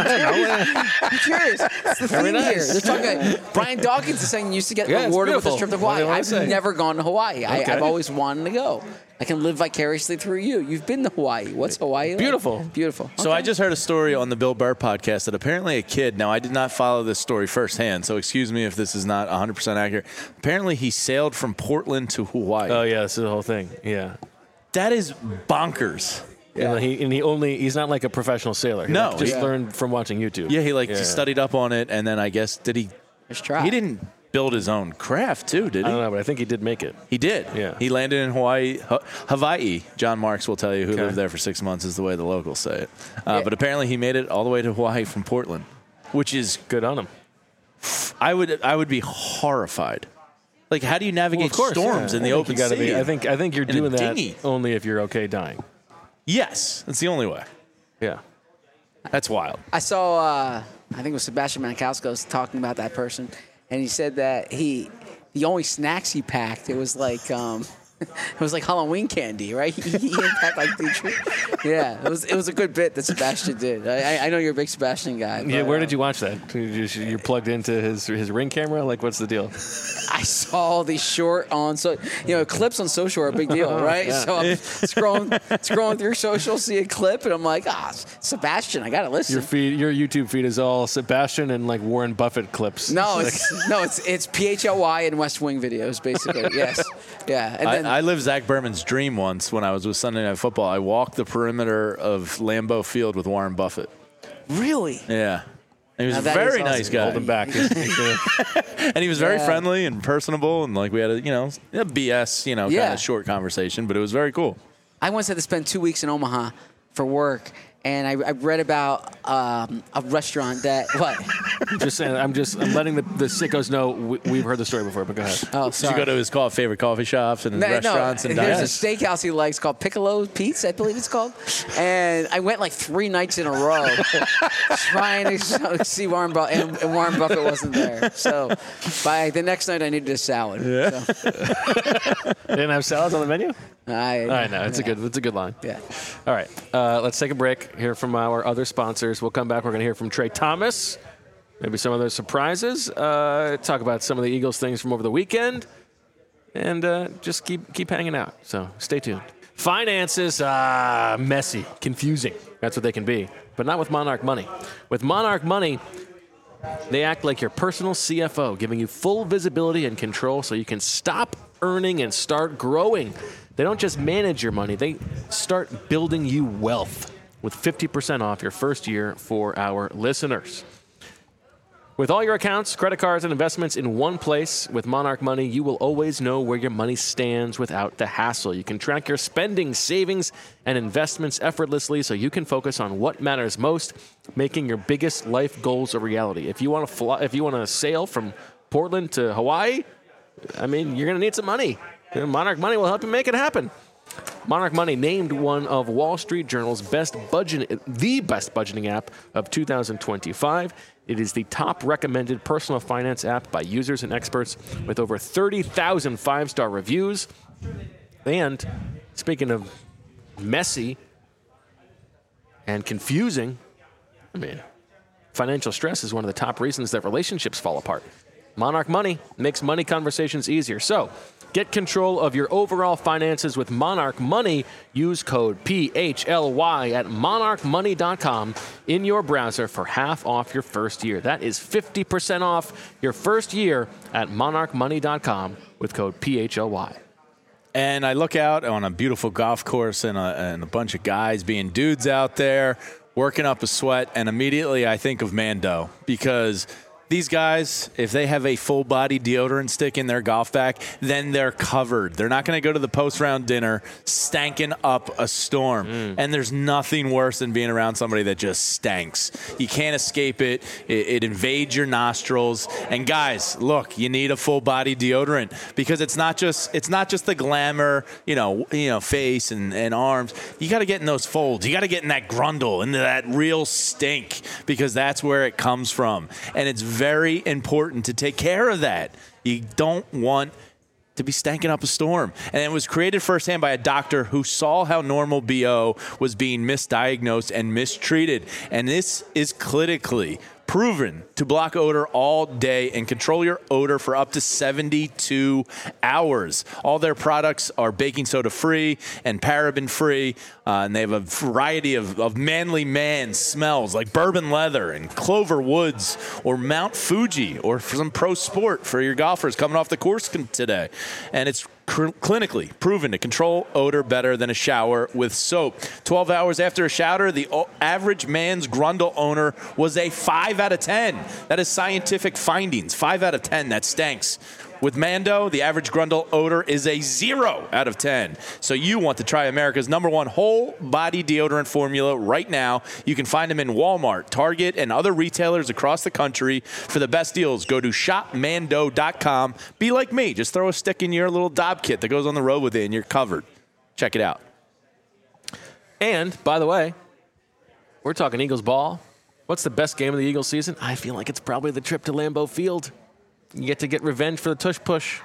I'm curious. It's the thing nice. here. They're talking. Brian Dawkins is saying you used to get Yeah, it's rewarded with this beautiful. trip to What do Hawaii. you wanna I've say? never gone to Hawaii. I, Okay. I've always wanted to go. I can live vicariously through you. You've been to Hawaii. What's Hawaii like? Beautiful. Beautiful. So I just heard a story on the Bill Burr podcast that apparently a kid, now I did not follow this story firsthand, so excuse me if this is not one hundred percent accurate. Apparently he sailed from Portland to Hawaii. Oh yeah, this is the whole thing. Yeah. That is bonkers. And he and he only he's not like a professional sailor. He No, like, just yeah. learned from watching YouTube. Yeah, he like Yeah. studied up on it, and then I guess, did he, Let's try. he didn't build his own craft too, did I he? don't know, but I think he did make it. He did. Yeah. He landed in Hawaii, Ha- Hawaii. John Marks will tell you who Okay. lived there for six months is the way the locals say it. Uh, Yeah. But apparently he made it all the way to Hawaii from Portland, which is, Good on him. I would I would be horrified. Like, how do you navigate Well, of course, storms yeah. in I the think open you gotta sea? be. I think I think you're In a doing that dinghy. only if you're okay dying. Yes, that's the only way. Yeah. That's wild. I saw, uh, I think it was Sebastian Maniscalco talking about that person, and he said that he, the only snacks he packed, it was like, um, it was like Halloween candy, right? He, he didn't pack like the treat. Yeah, it was it was a good bit that Sebastian did. I, I know you're a big Sebastian guy. But, Yeah. Where did uh, you watch that? You just- You're plugged into his his ring camera. Like, what's the deal? I saw the short on so you know clips on social are a big deal, right? Yeah. So I'm scrolling scrolling through social, see a clip, and I'm like, ah, Sebastian, I gotta listen. Your feed, your YouTube feed is all Sebastian and like Warren Buffett clips. No, it's no, it's it's P H L Y and West Wing videos, basically. Yes, yeah. And then I, I lived Zach Berman's dream once when I was with Sunday Night Football. I walked the perimeter of Lambeau Field with Warren Buffett. really, Yeah. He was Now a that very is nice awesome. guy. Hold him back. And he was very Yeah. friendly and personable, and like we had a, you know, a B S, you know, kind Yeah. of short conversation, but it was very cool. I once had to spend two weeks in Omaha for work, and I, I read about um, a restaurant that what? Just saying. I'm just. I'm letting the, the sickos know we, we've heard the story before. But go ahead. Oh, Did sorry. you go to his call, favorite coffee shops and No, restaurants no, and there's diners? a steakhouse he likes called Piccolo Pete's, I believe it's called. And I went like three nights in a row trying to see Warren Buffett, and, and Warren Buffett wasn't there. So by the next night, I needed a salad. Yeah. So, They didn't have salads on the menu. I, I know it's a yeah. good. It's a good line. Yeah. All right. Uh, let's take a break. Hear from our other sponsors. We'll come back. We're going to hear from Trey Thomas. Maybe some other surprises. Uh, talk about some of the Eagles things from over the weekend, and uh, just keep keep hanging out. So stay tuned. Finances, ah, messy, confusing. That's what they can be, but not with Monarch Money. With Monarch Money, they act like your personal C F O, giving you full visibility and control so you can stop earning and start growing. They don't just manage your money, they start building you wealth with fifty percent off your first year for our listeners. With all your accounts, credit cards, and investments in one place with Monarch Money, you will always know where your money stands without the hassle. You can track your spending, savings, and investments effortlessly so you can focus on what matters most, making your biggest life goals a reality. If you want to fly, if you want to sail from Portland to Hawaii, I mean, you're going to need some money. Monarch Money will help you make it happen. Monarch Money named one of Wall Street Journal's best budget, the best budgeting app of two thousand twenty-five. It is the top recommended personal finance app by users and experts with over thirty thousand five-star reviews. And speaking of messy and confusing, I mean, financial stress is one of the top reasons that relationships fall apart. Monarch Money makes money conversations easier. So, get control of your overall finances with Monarch Money. Use code P H L Y at monarch money dot com in your browser for half off your first year. That is fifty percent off your first year at monarch money dot com with code P H L Y. And I look out on a beautiful golf course and a, and a bunch of guys being dudes out there working up a sweat, and immediately I think of Mando, because these guys, if they have a full-body deodorant stick in their golf bag, then they're covered. They're not going to go to the post-round dinner stanking up a storm. Mm. And there's nothing worse than being around somebody that just stinks. You can't escape it. It, it invades your nostrils. And guys, look, you need a full-body deodorant, because it's not just it's not just the glamour, you know, you know, face and, and arms. You got to get in those folds. You got to get in that grundle, into that real stink, because that's where it comes from. And it's very important to take care of that. You don't want to be stanking up a storm. And it was created firsthand by a doctor who saw how normal B O was being misdiagnosed and mistreated. And this is clinically proven to block odor all day and control your odor for up to seventy-two hours. All their products are baking soda free and paraben free, uh, and they have a variety of, of manly man smells like bourbon leather and clover woods or Mount Fuji, or for some pro sport for your golfers coming off the course today. And it's cr- clinically proven to control odor better than a shower with soap. twelve hours after a shower, the o- average man's grundle owner was a five out of ten. That is scientific findings. five out of ten, that stinks. With Mando, the average Grundle odor is a zero out of ten. So you want to try America's number one whole body deodorant formula right now. You can find them in Walmart, Target, and other retailers across the country. For the best deals, go to shop mando dot com. Be like me. Just throw a stick in your little Dob kit that goes on the road with it, and you're covered. Check it out. And, by the way, we're talking Eagles ball. What's the best game of the Eagles season? I feel like it's probably the trip to Lambeau Field. You get to get revenge for the tush push.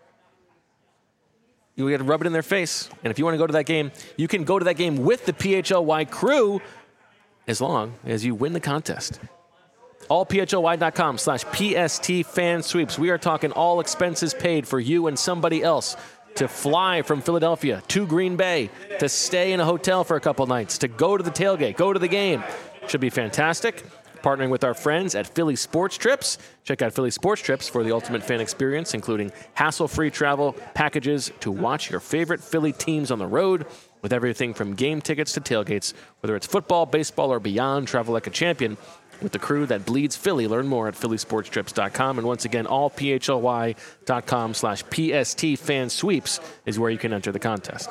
You get to rub it in their face. And if you want to go to that game, you can go to that game with the P H L Y crew as long as you win the contest. all P H L Y dot com slash P S T fan sweeps. We are talking all expenses paid for you and somebody else to fly from Philadelphia to Green Bay, to stay in a hotel for a couple nights, to go to the tailgate, go to the game. Should be fantastic. Partnering with our friends at Philly Sports Trips. Check out Philly Sports Trips for the ultimate fan experience, including hassle-free travel packages to watch your favorite Philly teams on the road, with everything from game tickets to tailgates. Whether it's football, baseball, or beyond, travel like a champion with the crew that bleeds Philly. Learn more at philly sports trips dot com. And once again, all P H L Y dot com slash P S T fan sweeps is where you can enter the contest.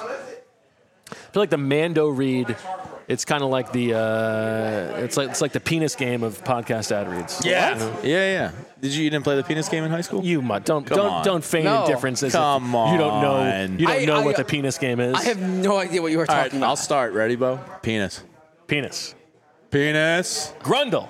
I feel like the Mando read, it's kind of like the uh, it's like it's like the penis game of podcast ad reads. Yeah, You know? yeah, yeah. Did you, you didn't play the penis game in high school? You must don't Come don't on. don't feign No. indifference as Come if you don't know on. you don't I- know I- what the penis game is. I have no idea what you were All right, talking I'll about. start. Ready, Bo? Penis. penis. Penis. Grundle.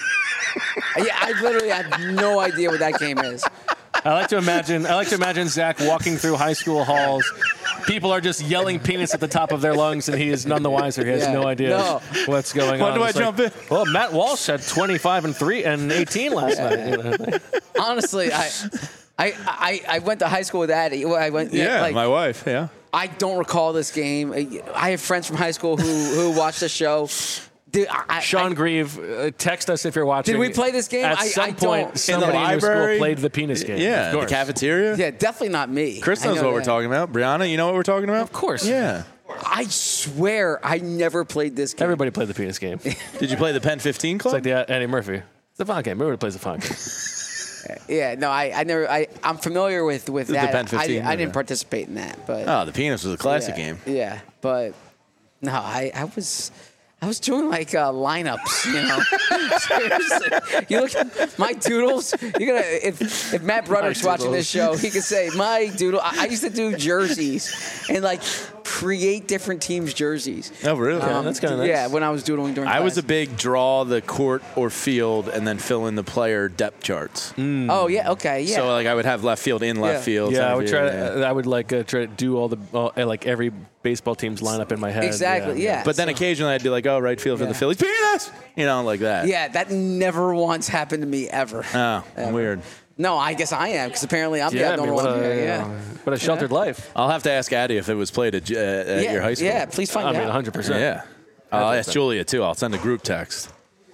Yeah, I literally have no idea what that game is. I like to imagine. I like to imagine Zach walking through high school halls. People are just yelling penis at the top of their lungs, and he is none the wiser. He has Yeah. no idea No. what's going When on. do I It's like, jump in? Well, Matt Walsh had twenty-five and three and eighteen last night. You know? Honestly, I, I, I, I went to high school with Addie. I went. Yeah, like, my wife. Yeah. I don't recall this game. I have friends from high school who who watched the show. Dude, I, I, Sean Grieve, uh, text us if you're watching. Did we play this game? At I- some I point, don't- somebody in, your library? school played the penis game. Yeah, of the course. cafeteria. yeah, definitely not me. Chris I knows know what we're that. talking about. Brianna, you know what we're talking about? Of course. Yeah. I swear I never played this game. Everybody played the penis game. It's Did you play the Pen fifteen Club? like the Eddie Murphy. It's the fun game. Everybody plays the fun game. Yeah, no, I, I never. I, I'm familiar with with The that. Pen fifteen, I, I didn't yeah. participate in that, but oh, the penis was a classic yeah, game. Yeah, but no, I, I was. I was doing like uh, lineups, you know. Seriously, you look at my doodles. You're gonna if if Matt Brudder's watching this show, he could say my doodle. I, I used to do jerseys and like create different teams' jerseys. Oh, really? Yeah, that's kinda nice. Yeah, when I was doodling during. I was a class. big draw the court or field and then fill in the player depth charts. Oh yeah, okay, yeah. So like I would have left field in left Yeah. field. Yeah, center I would field, try. yeah. To, I would like uh, try to do all the all, uh, like every baseball team's lineup in my head. Exactly, yeah. But then occasionally I'd be like, oh, right field for Yeah. the Phillies. Penis! You know, like that. yeah, that never once happened to me ever. Oh, weird. No, I guess I am because apparently I'm Yeah, the I mean, abnormal what one a, here. Yeah. What a sheltered life. I'll have to ask Addie if it was played at, uh, at yeah, your high school. Yeah, please find I out. mean, one hundred percent. Yeah. I'll ask Julia, too. I'll send a group text.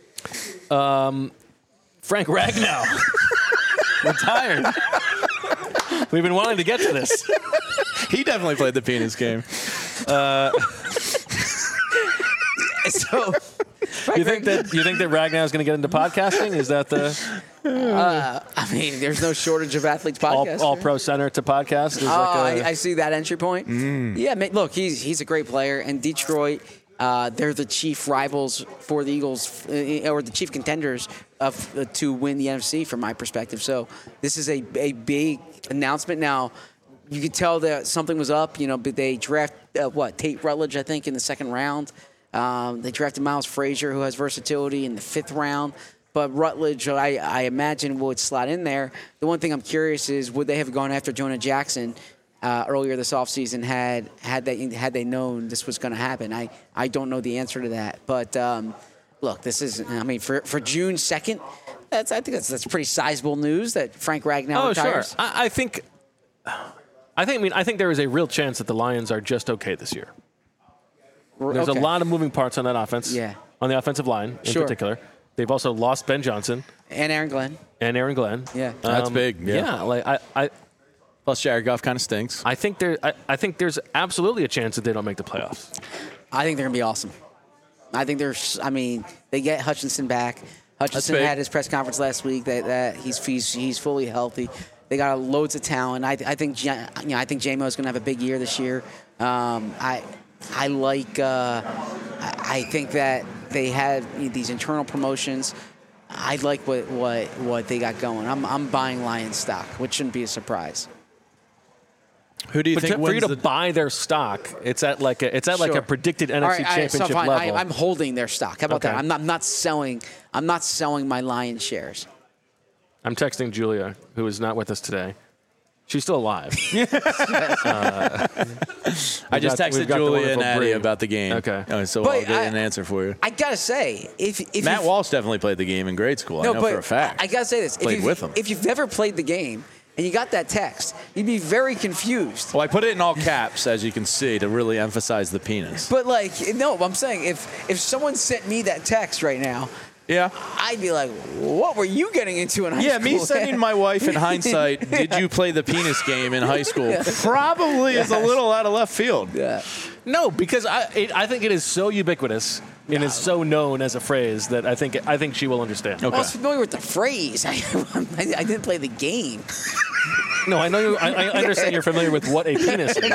Frank Ragnow retired. We've been wanting to get to this. He definitely played the penis game. So, You think that you think that Ragnow is going to get into podcasting? Is that the I mean, there's no shortage of athletes all, podcasts. all pro center to podcast? Is Oh, like a, I, I see that entry point. Yeah, man, look, he's he's a great player, and Detroit, uh, they're the chief rivals for the Eagles, uh, or the chief contenders of uh, to win the N F C, from my perspective. So this is a a big announcement. Now, you could tell that something was up. You know, but they draft uh, what Tate Rutledge, I think, in the second round. Um, they drafted Miles Frazier, who has versatility, in the fifth round. But Rutledge, I, I imagine, would slot in there. The one thing I'm curious is, would they have gone after Jonah Jackson uh, earlier this offseason had had they had they known this was going to happen? I, I don't know the answer to that. But um, look, this is, I mean, for for June second, that's I think that's that's pretty sizable news that Frank Ragnow oh retires. sure. I, I think. I think. I mean, I think there is a real chance that the Lions are just okay this year. There's Okay. a lot of moving parts on that offense. Yeah. On the offensive line in Sure. particular. They've also lost Ben Johnson And Aaron Glenn. and Aaron Glenn. Yeah. That's big, yeah. like I, I, Plus, Jared Goff kind of stinks. I think there. I, I think there's absolutely a chance that they don't make the playoffs. I think they're going to be awesome. I think there's, I mean, they get Hutchinson back. Hutchinson big. had his press conference last week that, that he's, he's he's fully healthy. They got loads of talent. I, I think Ja- you know I think J Mo is going to have a big year this year. Um, I I like. Uh, I I think that they had these internal promotions. I like what, what, what they got going. I'm I'm buying Lions stock, which shouldn't be a surprise. Who do you But think to, for you wins to the? buy their stock, it's at like a, it's at like Sure. a predicted N All F C right, all right, so Championship fine. level. I, I'm holding their stock. How about Okay. that? I'm not I'm not selling. I'm not selling my Lions shares. I'm texting Julia, who is not with us today. She's still alive. I just got- texted we've got the Julia wonderful and Addie Bree. about the game. Okay. Uh, so But I'll get I- an answer for you. I gotta say, if if Matt you've- Walsh definitely played the game in grade school. no, I know but for a fact. I, I gotta say this: Played if you've, with him. if you've never played the game and you got that text, you'd be very confused. Well, I put it in all caps, as you can see, to really emphasize the penis. But like, no, I'm saying if if someone sent me that text right now, Yeah. I'd be like, what were you getting into in high Yeah, school? me sending my wife in hindsight, did you play the penis game in high school? Probably is a little out of left field. Yeah. No, because I it, I think it is so ubiquitous and is so known as a phrase that I think I think she will understand. I was familiar with the phrase. I, I didn't play the game. No, I know. You, I, I understand you're familiar with what a penis is.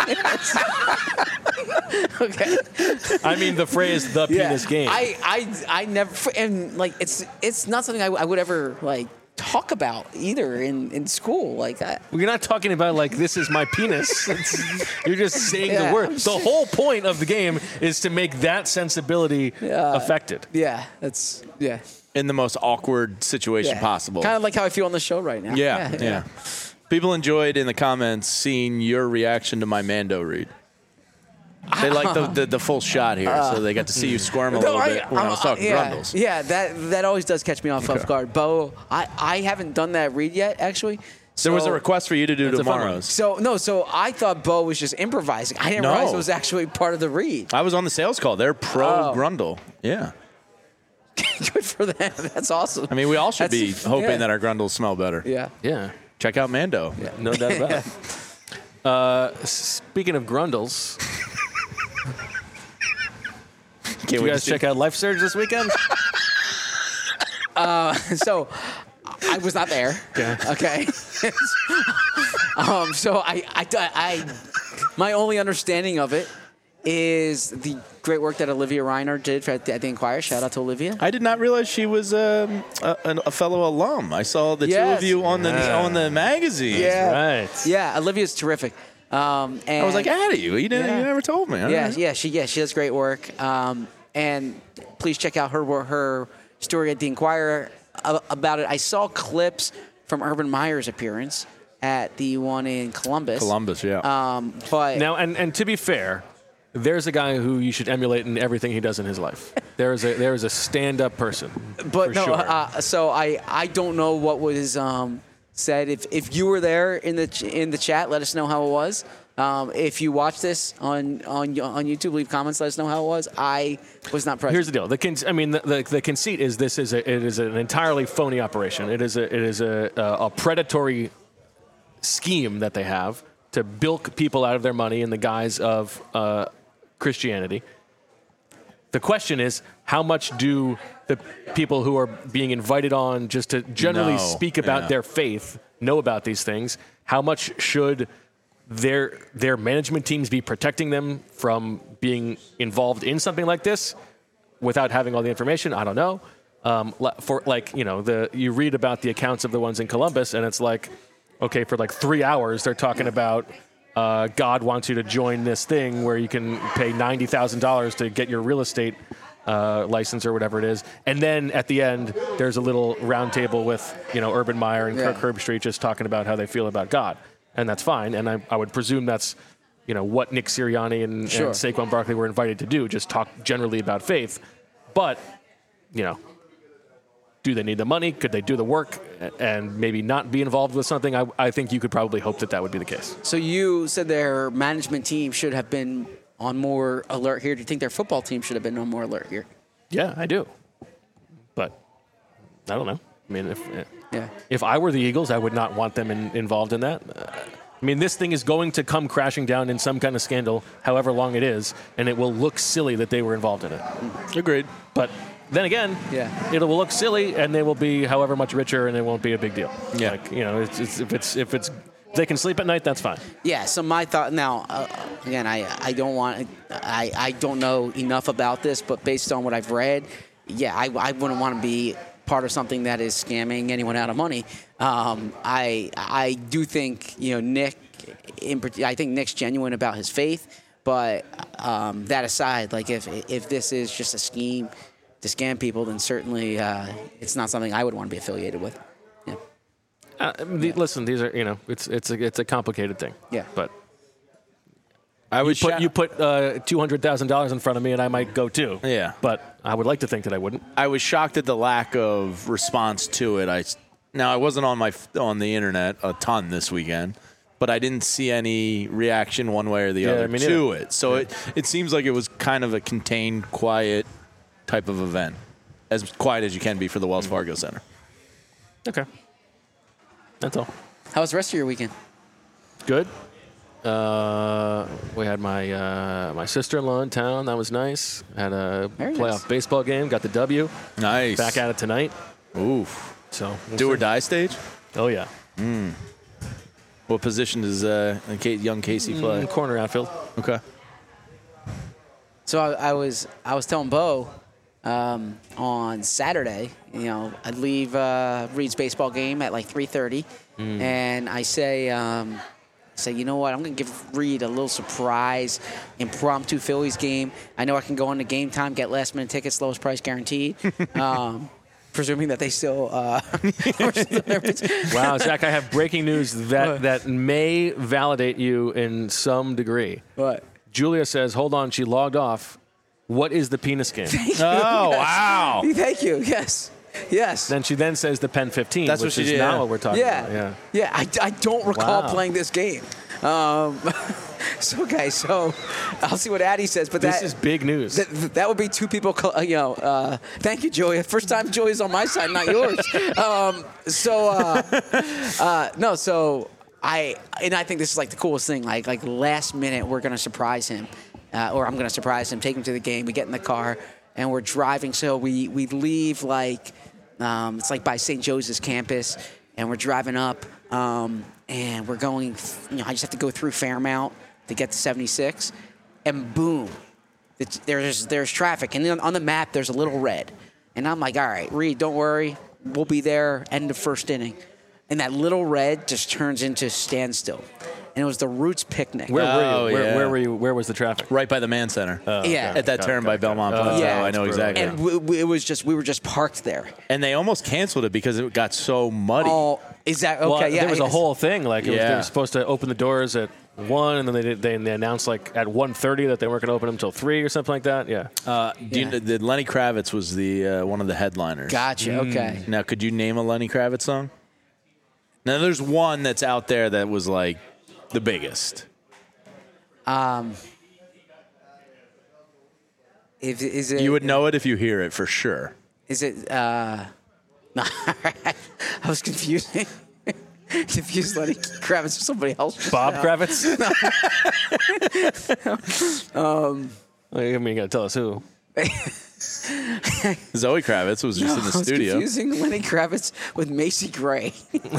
Okay. I mean the phrase "the penis game." I, I, I never, and like, it's it's not something I, I would ever like talk about either in, in school. Like, I, We're not talking about like this is my penis. It's- you're just saying Yeah, the word. I'm The sure. whole point of the game is to make that sensibility affected. yeah, that's yeah. In the most awkward situation yeah. possible. Kind of like how I feel on the show right now. Yeah, yeah, People enjoyed in the comments seeing your reaction to my Mando read. They like the, the the full shot here, so they got to see you squirm a No, little I- bit when I, I'm- was talking yeah, Grundles. Yeah, that that always does catch me off off guard. Bo, I, I haven't done that read yet, actually. So, There was a request for you to do That's a fun one. tomorrow's. So no, so I thought Bo was just improvising. I didn't No. realize it was actually part of the read. I was on the sales call. They're pro Oh. Grundle. Yeah. Good for them. That's awesome. I mean, we all should be That's- hoping yeah. that our Grundles smell better. Yeah. Yeah, Check out Mando. no doubt about it. Uh, speaking of Grundles, Can't did you wait to guys see- check out Life Surge this weekend? So I was not there. Okay. Okay. um, so I, I, I, my only understanding of it is the great work that Olivia Reiner did for, at, the, at the Inquirer. Shout out to Olivia. I did not realize she was um, a, a fellow alum. I saw the two Yes. of you on the Yeah. on the magazine. Yeah. Right. Yeah, Olivia's terrific. Um, and I was like, Addie, you, you, didn't, Yeah. you never told me. All Yeah, right. yeah, she yeah she does great work. Um, and please check out her her story at the Inquirer a- about it. I saw clips from Urban Meyer's appearance at the one in Columbus. Columbus, yeah. Um, but Now, and, and to be fair, there's a guy who you should emulate in everything he does in his life. There is a there is a stand-up person. but for no, sure. uh, so I I don't know what was um, said. If if you were there in the ch- in the chat, let us know how it was. Um, if you watch this on, on on YouTube, leave comments. Let us know how it was. I was not present. Here's the deal. The con- I mean, the, the, the conceit is this is a, it is an entirely phony operation. It is a it is a, a, a predatory scheme that they have to bilk people out of their money in the guise of uh, Christianity. The question is, how much do the people who are being invited on just to generally No, speak about yeah. their faith know about these things? How much should their their management teams be protecting them from being involved in something like this without having all the information? I don't know. Um, li- for like you know, the you read about the accounts of the ones in Columbus, and it's like, okay, for like three hours they're talking about uh, God wants you to join this thing where you can pay ninety thousand dollars to get your real estate uh, license or whatever it is, and then at the end there's a little round table with you know Urban Meyer and Yeah. Kirk Herbstreit just talking about how they feel about God. And that's fine. And I, I would presume that's, you know, what Nick Sirianni and, Sure. and Saquon Barkley were invited to do, just talk generally about faith. But, you know, do they need the money? Could they do the work and maybe not be involved with something? I, I think you could probably hope that that would be the case. So you said their management team should have been on more alert here. Do you think their football team should have been on more alert here? Yeah, I do. But I don't know. I mean, if Yeah. if I were the Eagles, I would not want them in, involved in that. Uh, I mean, this thing is going to come crashing down in some kind of scandal, however long it is, and it will look silly that they were involved in it. Agreed. But then again, Yeah. it will look silly, and they will be however much richer, and it won't be a big deal. Yeah. Like, you know, it's, it's, if it's if it's if they can sleep at night, that's fine. Yeah. So my thought now, uh, again, I I don't want I I don't know enough about this, but based on what I've read, yeah, I I wouldn't want to be part of something that is scamming anyone out of money. Um, I I do think you know Nick, in, I think Nick's genuine about his faith, but um, that aside, like if if this is just a scheme to scam people, then certainly uh, it's not something I would want to be affiliated with. Yeah. Uh, the, listen, these are you know, it's it's a it's a complicated thing. Yeah. But I you was put sho- you put uh, two hundred thousand dollars in front of me, and I might go too. Yeah. But I would like to think that I wouldn't. I was shocked at the lack of response to it. I now I wasn't on my on the internet a ton this weekend, but I didn't see any reaction one way or the Yeah, other me to neither. it. So Yeah. it it seems like it was kind of a contained, quiet type of event, as quiet as you can be for the Wells Fargo Center. Okay. That's all. How was the rest of your weekend? Good. Uh, we had my uh, my sister-in-law in town. That was nice. Had a Very playoff nice. baseball game. Got the W. Nice. Back at it tonight. Oof. So we'll Do or see. die stage. Oh yeah. What position does uh, young Casey play? Mm, corner outfield. Okay. So I, I was I was telling Bo um, on Saturday, you know, I'd leave uh, Reed's baseball game at like three thirty, and I say, um, say, you know what, I'm going to give Reed a little surprise impromptu Phillies game. I know I can go on to Game Time, get last minute tickets, lowest price guaranteed. um, presuming that they still. Uh, Wow, Zach, I have breaking news that that may validate you in some degree. what? Julia says, "Hold on, she logged off. What is the penis game?" Oh wow. Thank you. Yes. Yes. Then she then says the Pen fifteen, That's what which she is did, not yeah. what we're talking Yeah. about. Yeah. Yeah, I, I don't recall Wow. playing this game. Um, so, okay, so I'll see what Addie says. But This that, is big news. that, that would be two people, co- uh, you know, uh, thank you, Joey. First time Joey's on my side, not yours. um, so, uh, uh, no, so I, and I think this is like the coolest thing. Like, like last minute, we're going to surprise him, uh, or I'm going to surprise him, take him to the game. We get in the car, and we're driving. So we, we leave like, um, it's like by Saint Joseph's campus, and we're driving up, um, and we're going, you know, I just have to go through Fairmount to get to seventy-six, and boom, it's, there's there's traffic, and then on the map there's a little red, and I'm like, all right, Reed, don't worry, we'll be there end of first inning, and that little red just turns into standstill, and it was the Roots picnic. Where Oh, were you? Where, yeah. where were you? Where was the traffic? Right by the Man Center. yeah, At that Got it, turn got by it, got it. Belmont Oh, Plateau. yeah. I know That's exactly. and w- w- it was just we were just parked there. And they almost canceled it because it got so muddy. Oh, is that okay? Well, yeah, there was a it's- whole thing. Like it was, they Yeah. were supposed to open the doors at one, and then they did, they, they announced like at one thirty that they weren't going to open them until three or something like that. Yeah. Uh, do you Yeah. know, the Lenny Kravitz was the uh, one of the headliners. Gotcha. Okay. Now, could you name a Lenny Kravitz song? Now, there's one that's out there that was like the biggest. Um, if, is it? You would know it if you hear it for sure. Is it? Uh, no, I was confusing. Confused Lenny Kravitz with somebody else. Bob Kravitz. um, I mean, you got to tell us who. Zoe Kravitz was just in the I was studio. confusing Lenny Kravitz with Macy Gray.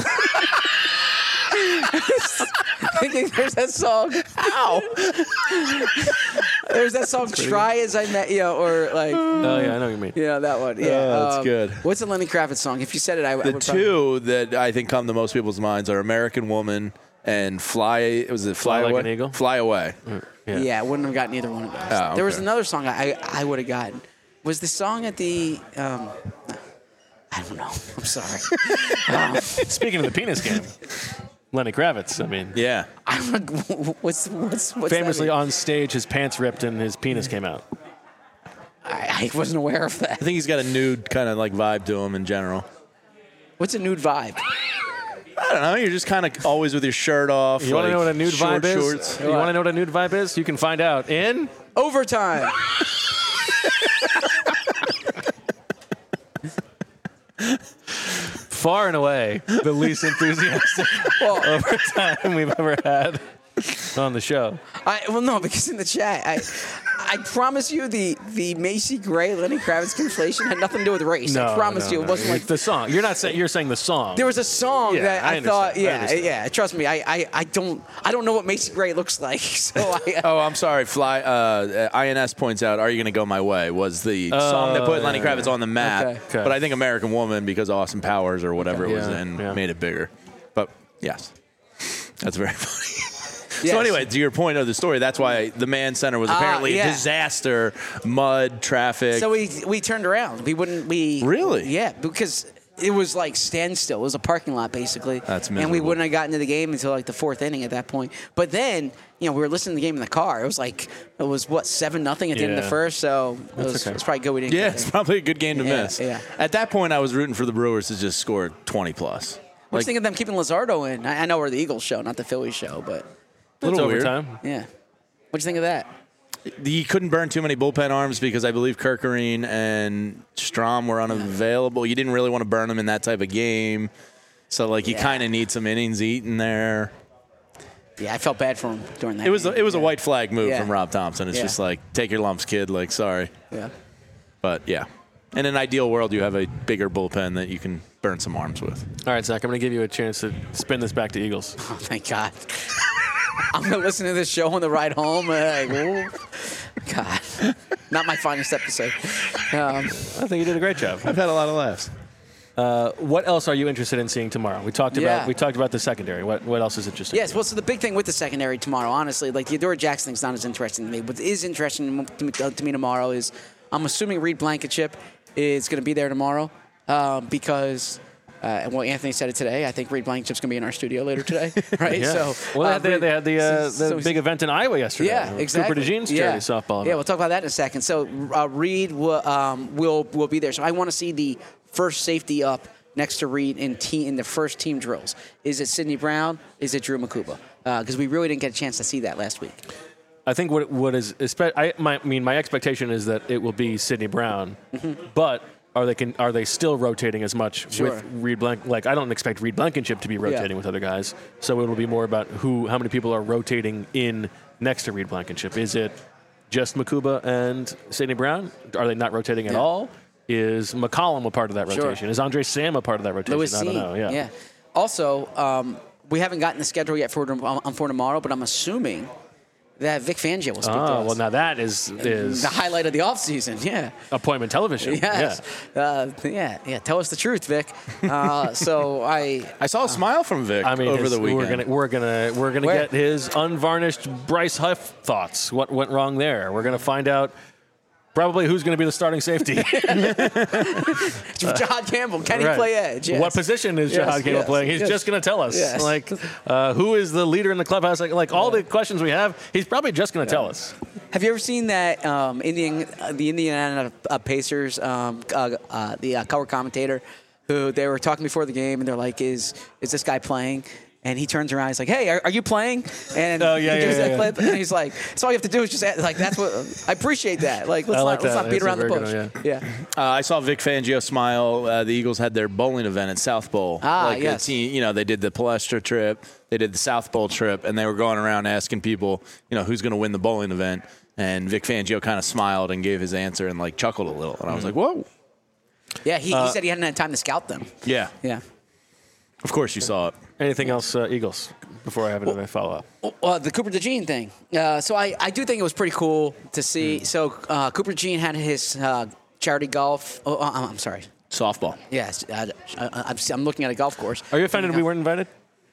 Thinking there's that song. Ow! There's that song. Try as I met you, know, or like. Oh yeah, I know what you mean. Yeah, that one. Yeah, Oh, that's um, good. What's a Lenny Kravitz song? If you said it, I, I The would probably- two that I think come to most people's minds are American Woman and Fly. Was it Fly, Fly Like Away? an Eagle? Fly Away. Yeah. Yeah, I wouldn't have gotten either one of those. Oh, There was okay. another song I I would have gotten. Was the song at the? Um, I don't know. I'm sorry. um, Speaking of the penis game, Lenny Kravitz. I mean, Yeah. I don't know. What's what's what's famously that mean? on stage, his pants ripped and his penis came out. I, I wasn't aware of that. I think he's got a nude kind of like vibe to him in general. What's a nude vibe? I don't know. You're just kind of always with your shirt off. You want to like know what a nude short vibe is? shorts. You want to know what a nude vibe is? You can find out in Overtime. far and away the least enthusiastic overtime we've ever had. on the show. I, well, no, because in the chat, I I promise you the, the Macy Gray Lenny Kravitz conflation had nothing to do with race. No, I promise no, you, it no. wasn't like It's the song. You're not saying. You're saying the song. there was a song Yeah, that I I, thought, understand. I yeah, understand. yeah. Trust me, I, I, I don't I don't know what Macy Gray looks like, so I. Oh, I'm sorry. Fly. Uh, I N S points out, "Are You Gonna Go My Way?" was the song that put Lenny Kravitz on the map. Okay. Okay. But I think American Woman, because Austin Powers or whatever Okay. it was Yeah, in, yeah. made it bigger. But yes, that's very funny. Yes. So anyway, to your point of the story, that's why the Mann Center was Ah, apparently yeah. a disaster, mud, traffic. So we we turned around. We wouldn't. We Really? Yeah, because it was like standstill. It was a parking lot basically. That's And we miserable. wouldn't have gotten to the game until like the fourth inning at that point. But then you know we were listening to the game in the car. It was like it was what seven nothing at the end of the Yeah. first. So it That's was, okay. it was probably good we didn't. yeah, get it's there. probably a good game to Yeah, miss. yeah. At that point, I was rooting for the Brewers to just score twenty plus. What do you think of them keeping Luzardo in? I, I know we're the Eagles show, not the Phillies show, but It's little weird. overtime. yeah. What do you think of that? He couldn't burn too many bullpen arms because I believe Kirkerine and Strom were unavailable. You didn't really want to burn them in that type of game. So, like, you Yeah. kind of need some innings eaten there. Yeah, I felt bad for him during that. It was a, game. it was a Yeah. white flag move Yeah. from Rob Thompson. It's Yeah. just like, take your lumps, kid. Like, sorry. Yeah. But, yeah. In an ideal world, you have a bigger bullpen that you can burn some arms with. All right, Zach. I'm going to give you a chance to spin this back to Eagles. Oh, thank God. I'm going to listen to this show on the ride home. and Like, oh, God. Not my finest episode. Um, I think you did a great job. I've had a lot of laughs. Uh, what else are you interested in seeing tomorrow? We talked Yeah. about we talked about the secondary. What what else is interesting? yes, well, so the big thing with the secondary tomorrow, honestly, like the Adora Jackson thing's not as interesting to me. What is interesting to me, to me tomorrow is I'm assuming Reed Blankenship is going to be there tomorrow um, because. Uh, and well, Anthony said it today. I think Reed Blankenship's going to be in our studio later today, right? Yeah. So, well, uh, they had the, they had the, uh, so- the so- big event in Iowa yesterday. Yeah, exactly. Cooper DeJean's yeah. charity softball event. Yeah, we'll talk about that in a second. So uh, Reed will, um, will will be there. So I want to see the first safety up next to Reed in te- in the first team drills. Is it Sidney Brown? Is it Drew Makuba? Because uh, we really didn't get a chance to see that last week. I think what what is espe- I, my, I mean my expectation is that it will be Sidney Brown, Mm-hmm. but are they can are they still rotating as much Sure. with Reed Blank? Like I don't expect Reed Blankenship to be rotating Yeah. with other guys, so it'll be more about who how many people are rotating in next to Reed Blankenship. Is it just Makuba and Sidney Brown? Are they not rotating at Yeah. all? Is McCollum a part of that Sure. rotation? Is Andre Sam a part of that rotation? Lewis I don't Seen, know. Yeah. yeah. Also, um, we haven't gotten the schedule yet for um, for tomorrow, but I'm assuming that Vic Fangio will speak to Oh us. well, now that is is the highlight of the offseason, yeah. appointment television. Yes. Yeah. Uh, yeah, yeah. Tell us the truth, Vic. Uh, so I, I saw a smile from Vic I mean, over his- the weekend. we're gonna we're gonna we're gonna Where? get his unvarnished Bryce Huff thoughts. What went wrong there? We're gonna find out probably who's gonna be the starting safety. Jahad Campbell, can he Right. play edge? Yes. What position is Yes, Jahad Campbell yes, playing? He's yes. just gonna tell us. Yes. Like, uh, who is the leader in the clubhouse? Like, like all the questions we have, he's probably just gonna tell us. Have you ever seen that um, Indian, uh, the Indiana uh, Pacers, um, uh, uh, the uh, color commentator, who they were talking before the game, and they're like, "Is is this guy playing?" And he turns around, he's like, "Hey, are, are you playing?" And Oh, yeah, he gives yeah, that yeah. clip, and he's like, "So all you have to do is just add, like that's what I appreciate that. Like let's I like not let's that. not beat That's a around the very bush." good one, yeah. Uh, I saw Vic Fangio smile. Uh, the Eagles had their bowling event at South Bowl. Ah, like yes. a team, you know, they did the Palestra trip, they did the South Bowl trip, and they were going around asking people, you know, who's going to win the bowling event. And Vic Fangio kind of smiled and gave his answer and like chuckled a little. And I was like, whoa. Yeah, he, Uh, he said he hadn't had time to scout them. Yeah. Yeah. Of course you saw it. Anything else, uh, Eagles? Before I have another follow up. Uh, the Cooper DeJean thing. Uh, so I, I do think it was pretty cool to see. So uh, Cooper DeJean had his uh, charity golf. Oh, uh, I'm sorry. Softball. Yes, uh, I, I'm, I'm looking at a golf course. Are you offended we weren't invited?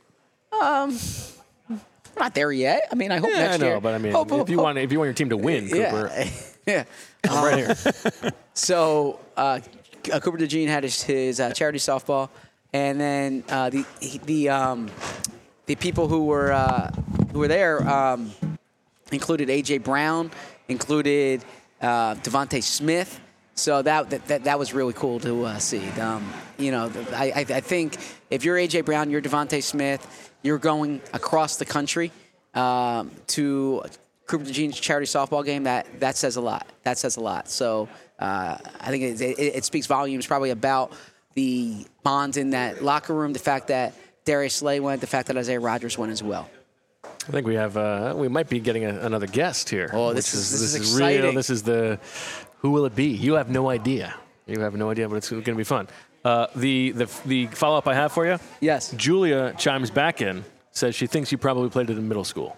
We're not there yet. I mean, I hope Yeah, next I know, year. but I mean, Hope, if hope, you hope. want if you want your team to win, Cooper, yeah, yeah. I'm right here. So uh, uh, Cooper DeJean had his, his uh, charity softball, and then uh, the he- the um, the people who were uh, who were there um, included A J Brown, included uh, Devontae Smith. So that, that that that was really cool to uh, see. Um, you know, I, I I think if you're A J Brown, you're Devontae Smith, you're going across the country um, to Cooper DeJean's charity softball game. That that says a lot. That says a lot. So uh, I think it, it, it speaks volumes probably about the bonds in that locker room. The fact that Darius Slay went, the fact that Isaiah Rodgers went as well. I think we have. Uh, we might be getting a, another guest here. Oh, this which is- this is real. exciting. This is the. Who will it be? You have no idea. You have no idea, but it's going to be fun. Uh, the the the follow up I have for you. Yes. Julia chimes back in, says she thinks you probably played it in middle school.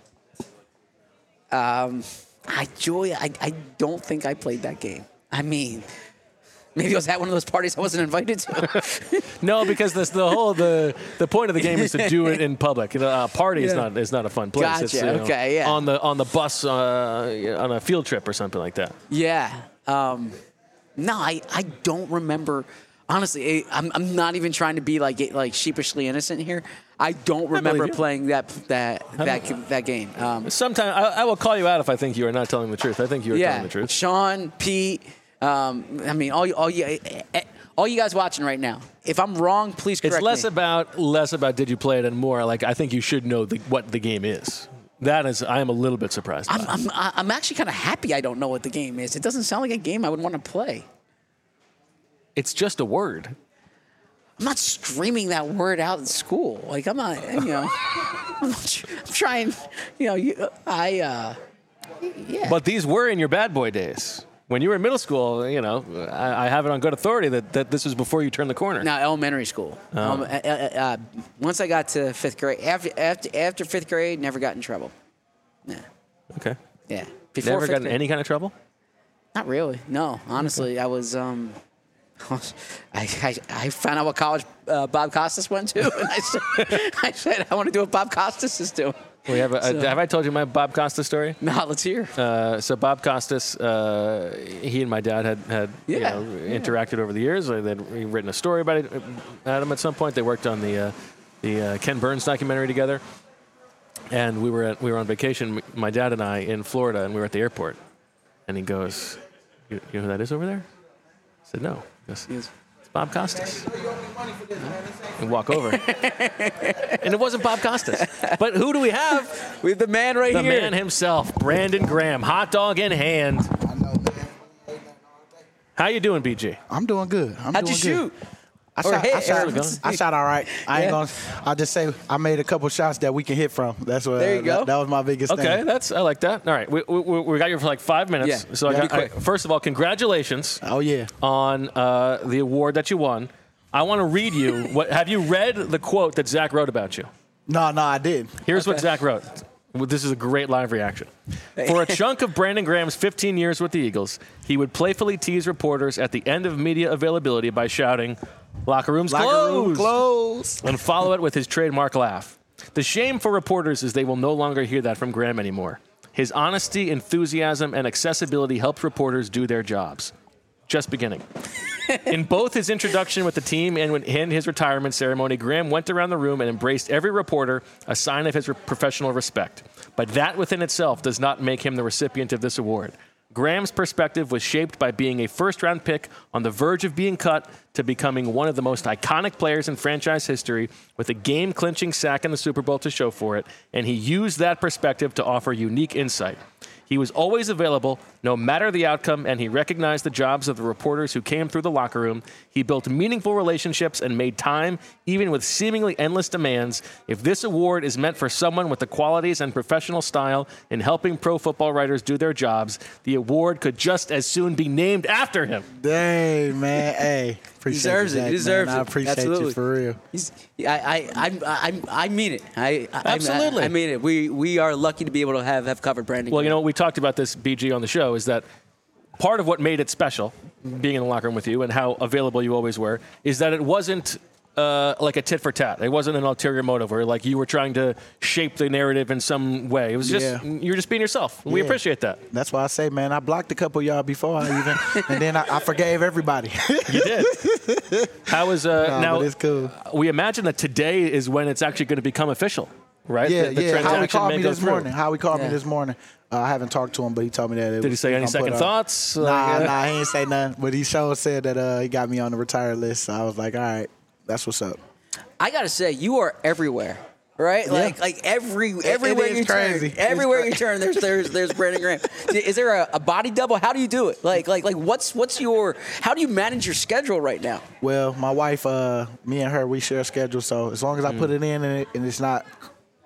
I Julia, I, I don't think I played that game. I mean, maybe I was at one of those parties I wasn't invited to. No, because this, the whole the the point of the game is to do it in public. You know, a party is Yeah. not is not a fun place. Gotcha, It's, you know, okay, yeah. On the on the bus uh, on a field trip or something like that. Yeah. Um, no, I, I don't remember. Honestly, I- I'm, I'm not even trying to be like like sheepishly innocent here. I don't remember you. playing that that that that game. Um, Sometime I, I will call you out if I think you are not telling the truth. I think you are yeah, telling the truth. Sean, Pete. Um, I mean, all you- all you all you guys watching right now. If I'm wrong, please correct It's less me. about less about did you play it and more like I think you should know the, what the game is. That is, I am a little bit surprised. By. I'm, I'm I'm actually kind of happy I don't know what the game is. It doesn't sound like a game I would want to play. It's just a word. I'm not screaming that word out in school. Like I'm not, you know. I'm, not tr- I'm trying, you know. You, I, uh, yeah. But these were in your bad boy days. When you were in middle school, you know, I, I have it on good authority that, that this was before you turned the corner. Now elementary school. Um, uh, uh, uh, once I got to fifth grade, after after after fifth grade, never got in trouble. Yeah, Okay. yeah. Before Never fifth got in grade- any kind of trouble? Not really. No, honestly, I was. Um, I, I I found out what college uh, Bob Costas went to, and I said, I said I want to do what Bob Costas is doing. We have, a, So- have I told you my Bob Costas story? Now let's hear. Uh, so Bob Costas, uh, he and my dad had, had you Yeah, know, yeah. interacted over the years. They'd written a story about it, Adam at some point. They worked on the uh, the uh, Ken Burns documentary together, and we were at, we were on vacation, my dad and I, in Florida, and we were at the airport. And he goes, "You, you know who that is over there?" I said, "No." He goes, Yes. "It's Bob Costas." And walk over, and it wasn't Bob Costas. But who do we have? We have the man right The here. man himself, Brandon Graham, hot dog in hand. I know, man. How you doing, B G? I'm doing good. I'm How'd doing you good. shoot? I Or shot, hit, I, shot, or- I shot all right. I ain't Yeah. gonna. I'll just say I made a couple shots that we can hit from. That's what. There you that, go. That was my biggest Okay, thing. that's I like that. All right, we, we, we got you for like five minutes. Yeah. So I Yeah, got, be quick. I, first of all, congratulations Oh yeah. on uh, the award that you won. I want to read you. What have you read the quote that Zach wrote about you? No, no, I did. Here's what Okay. Zach wrote. Well, this is a great live reaction. For a chunk of Brandon Graham's fifteen years with the Eagles, he would playfully tease reporters at the end of media availability by shouting, "Locker room's Locker closed," room closed. and follow it with his trademark laugh. The shame for reporters is they will no longer hear that from Graham anymore. His honesty, enthusiasm, and accessibility helps reporters do their jobs. Just beginning. In both his introduction with the team and in his retirement ceremony, Graham went around the room and embraced every reporter, a sign of his re- professional respect. But that within itself does not make him the recipient of this award. Graham's perspective was shaped by being a first-round pick on the verge of being cut to becoming one of the most iconic players in franchise history with a game-clinching sack in the Super Bowl to show for it, and he used that perspective to offer unique insight. He was always available, no matter the outcome, and he recognized the jobs of the reporters who came through the locker room. He built meaningful relationships and made time, even with seemingly endless demands. If this award is meant for someone with the qualities and professional style in helping pro football writers do their jobs, the award could just as soon be named after him. Dang, man. Hey, appreciate Deserves you, it. Zach, He deserves man. I it. appreciate Absolutely. you for real. He's, I, I, I, I, I mean it. I, I, Absolutely. I, I mean it. We, we are lucky to be able to have, have covered Brandon. Well, you Graham. know, we talked about this, B G, on the show, is that part of what made it special, being in the locker room with you and how available you always were, is that it wasn't uh, like a tit for tat. It wasn't an ulterior motive where like you were trying to shape the narrative in some way. It was just, Yeah. you were just being yourself. We Yeah. appreciate that. That's why I say, man, I blocked a couple of y'all before I even, and then I, I forgave everybody. You did. How is, uh, Nah, now, but it's cool. we imagine that today is when it's actually going to become official, right? Yeah, The- the yeah. Howie transaction called may me go this through. morning. Howie called Yeah. me this morning. Uh, I haven't talked to him, but he told me that. It Did he was- say any gonna second put, uh, thoughts? Nah, Like, uh, nah, he ain't say nothing. But he sure said that uh, he got me on the retired list. So I was like, all right, that's what's up. I gotta say, you are everywhere, right? Like, like every everywhere is you crazy. turn, It's everywhere cra- you turn, there's there's there's Brandon Graham. Is there a, a body double? How do you do it? Like, like, like, what's what's your? How do you manage your schedule right now? Well, my wife, uh, me and her, we share a schedule. So as long as I put it in and, it, and it's not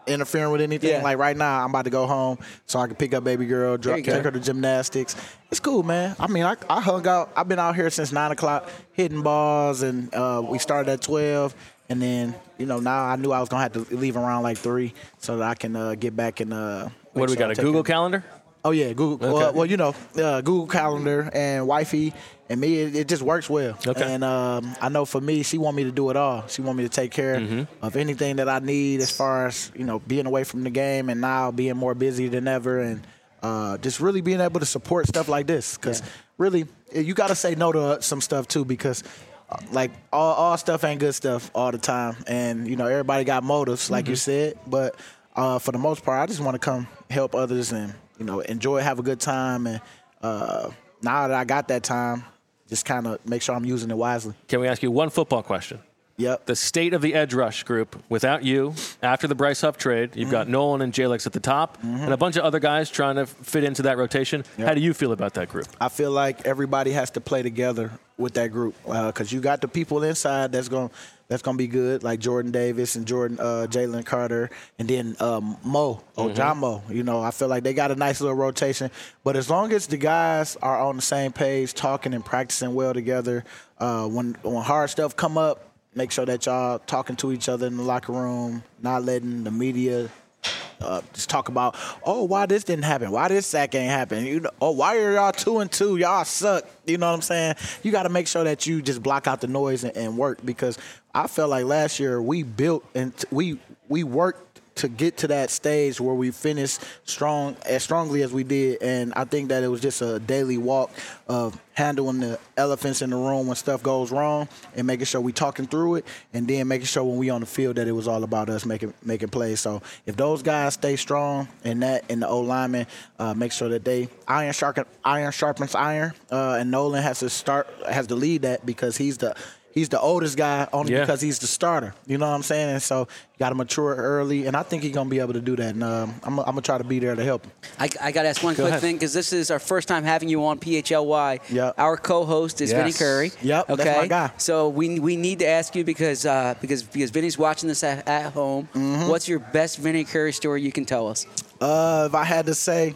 interfering with anything. Yeah. Like right now, I'm about to go home so I can pick up baby girl, There drop, you go. take her to gymnastics. It's cool, man. I mean, I, I hung out. I've been out here since nine o'clock hitting balls, and uh, we started at twelve. And then, you know, now I knew I was going to have to leave around like three so that I can uh, get back and uh, What do we got, a Google Calendar? Oh, yeah, Google. Okay. Well, well, you know, uh, Google Calendar and wifey and me, it, it just works well. Okay. And um, I know for me, she want me to do it all. She want me to take care Mm-hmm. of anything that I need as far as, you know, being away from the game and now being more busy than ever and uh, just really being able to support stuff like this. Because Yeah. really, you got to say no to some stuff, too, because – like all, all stuff ain't good stuff all the time, and you know everybody got motives, like Mm-hmm. you said. But uh, for the most part, I just want to come help others and you know enjoy, have a good time. And uh, now that I got that time, just kind of make sure I'm using it wisely. Can we ask you one football question? Yep. The state of the edge rush group without you after the Bryce Huff trade. You've got Nolan and Jalix at the top and a bunch of other guys trying to fit into that rotation. How do you feel about that group? I feel like everybody has to play together with that group because uh, you got the people inside that's going that's going to be good, like Jordan Davis and Jordan uh, Jalen Carter, and then um, Mo, oh John Mo. You know, I feel like they got a nice little rotation. But as long as the guys are on the same page, talking and practicing well together, uh, when when hard stuff come up, make sure that y'all talking to each other in the locker room, not letting the media uh, just talk about, oh, why this didn't happen? Why this sack ain't happen? You know, oh, why are y'all two and two? Y'all suck. You know what I'm saying? You got to make sure that you just block out the noise and, and work because I felt like last year we built and t- we we worked to get to that stage where we finished strong as strongly as we did, and I think that it was just a daily walk of handling the elephants in the room when stuff goes wrong and making sure we talking through it, and then making sure when we on the field that it was all about us making making plays. So if those guys stay strong and that and the O linemen uh, make sure that they iron sharpen iron sharpens iron, uh, and Nolan has to start has to lead that because he's the He's the oldest guy only Yeah. because he's the starter. You know what I'm saying? And so you got to mature early, and I think he's going to be able to do that. And um, I'm, I'm going to try to be there to help him. I, I got to ask one quick ahead. thing because this is our first time having you on P H L Y. Yep. Our co-host is Yes. Vinny Curry. Yep, Okay. that's my guy. So we we need to ask you because uh, because because Vinny's watching this at, at home. Mm-hmm. What's your best Vinny Curry story you can tell us? Uh, if I had to say,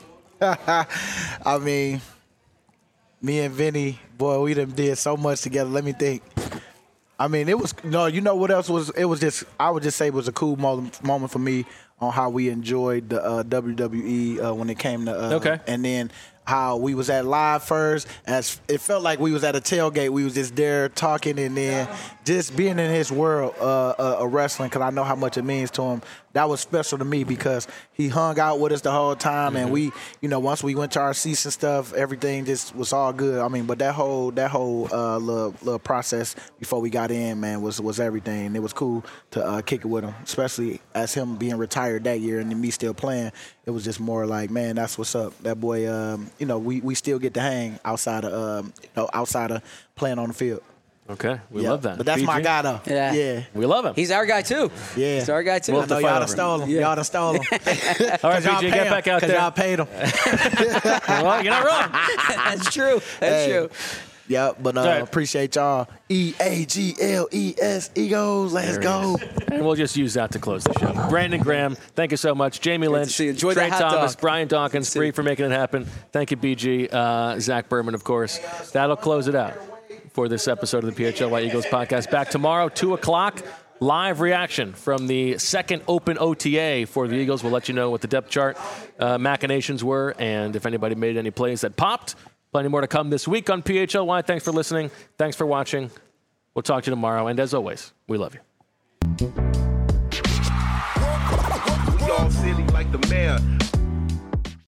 I mean, me and Vinny, boy, we done did so much together. Let me think. I mean, it was no. You know what else was? It was just. I would just say it was a cool moment, moment for me on how we enjoyed the uh, W W E uh, when it came to. Uh, Okay. And then how we was at live first. As it felt like we was at a tailgate. We was just there talking, and then just being in his world uh, uh, of wrestling, because I know how much it means to him. That was special to me because he hung out with us the whole time, and we, you know, once we went to our seats and stuff, everything just was all good. I mean, but that whole that whole uh, little, little process before we got in, man, was was everything. It was cool to uh, kick it with him, especially as him being retired that year and then me still playing. It was just more like, man, that's what's up. That boy, um, you know, we, we still get to hang outside of, um, you know, outside of playing on the field. Okay, we Yeah. love that. But that's B G? my guy, though. Yeah. Yeah. We love him. He's our guy too. Yeah. He's our guy too. We'll I know fight y'all over done him. stole him. Yeah. Y'all done stole him. All right, Y'all B G, pay get him, back out 'cause there. y'all paid him. Well, you're not wrong. That's true. That's Hey. true. Yeah, but uh, All right. appreciate y'all. E A G L E S, Eagles. Let's There he go. is. And we'll just use that to close the show. Brandon Graham, thank you so much. Jamie to Lynch, see you. Enjoy Trey that hot Thomas, dog. Brian Dawkins, Bree for making it happen. Thank you, B G. Uh, Zach Berman, of course. That'll close it out for this episode of the P H L Y Eagles podcast. Back tomorrow, two o'clock. Live reaction from the second open O T A for the Eagles. We'll let you know what the depth chart uh, machinations were and if anybody made any plays that popped. Plenty more to come this week on P H L Y. Thanks for listening. Thanks for watching. We'll talk to you tomorrow. And as always, we love you. We all silly like the mayor.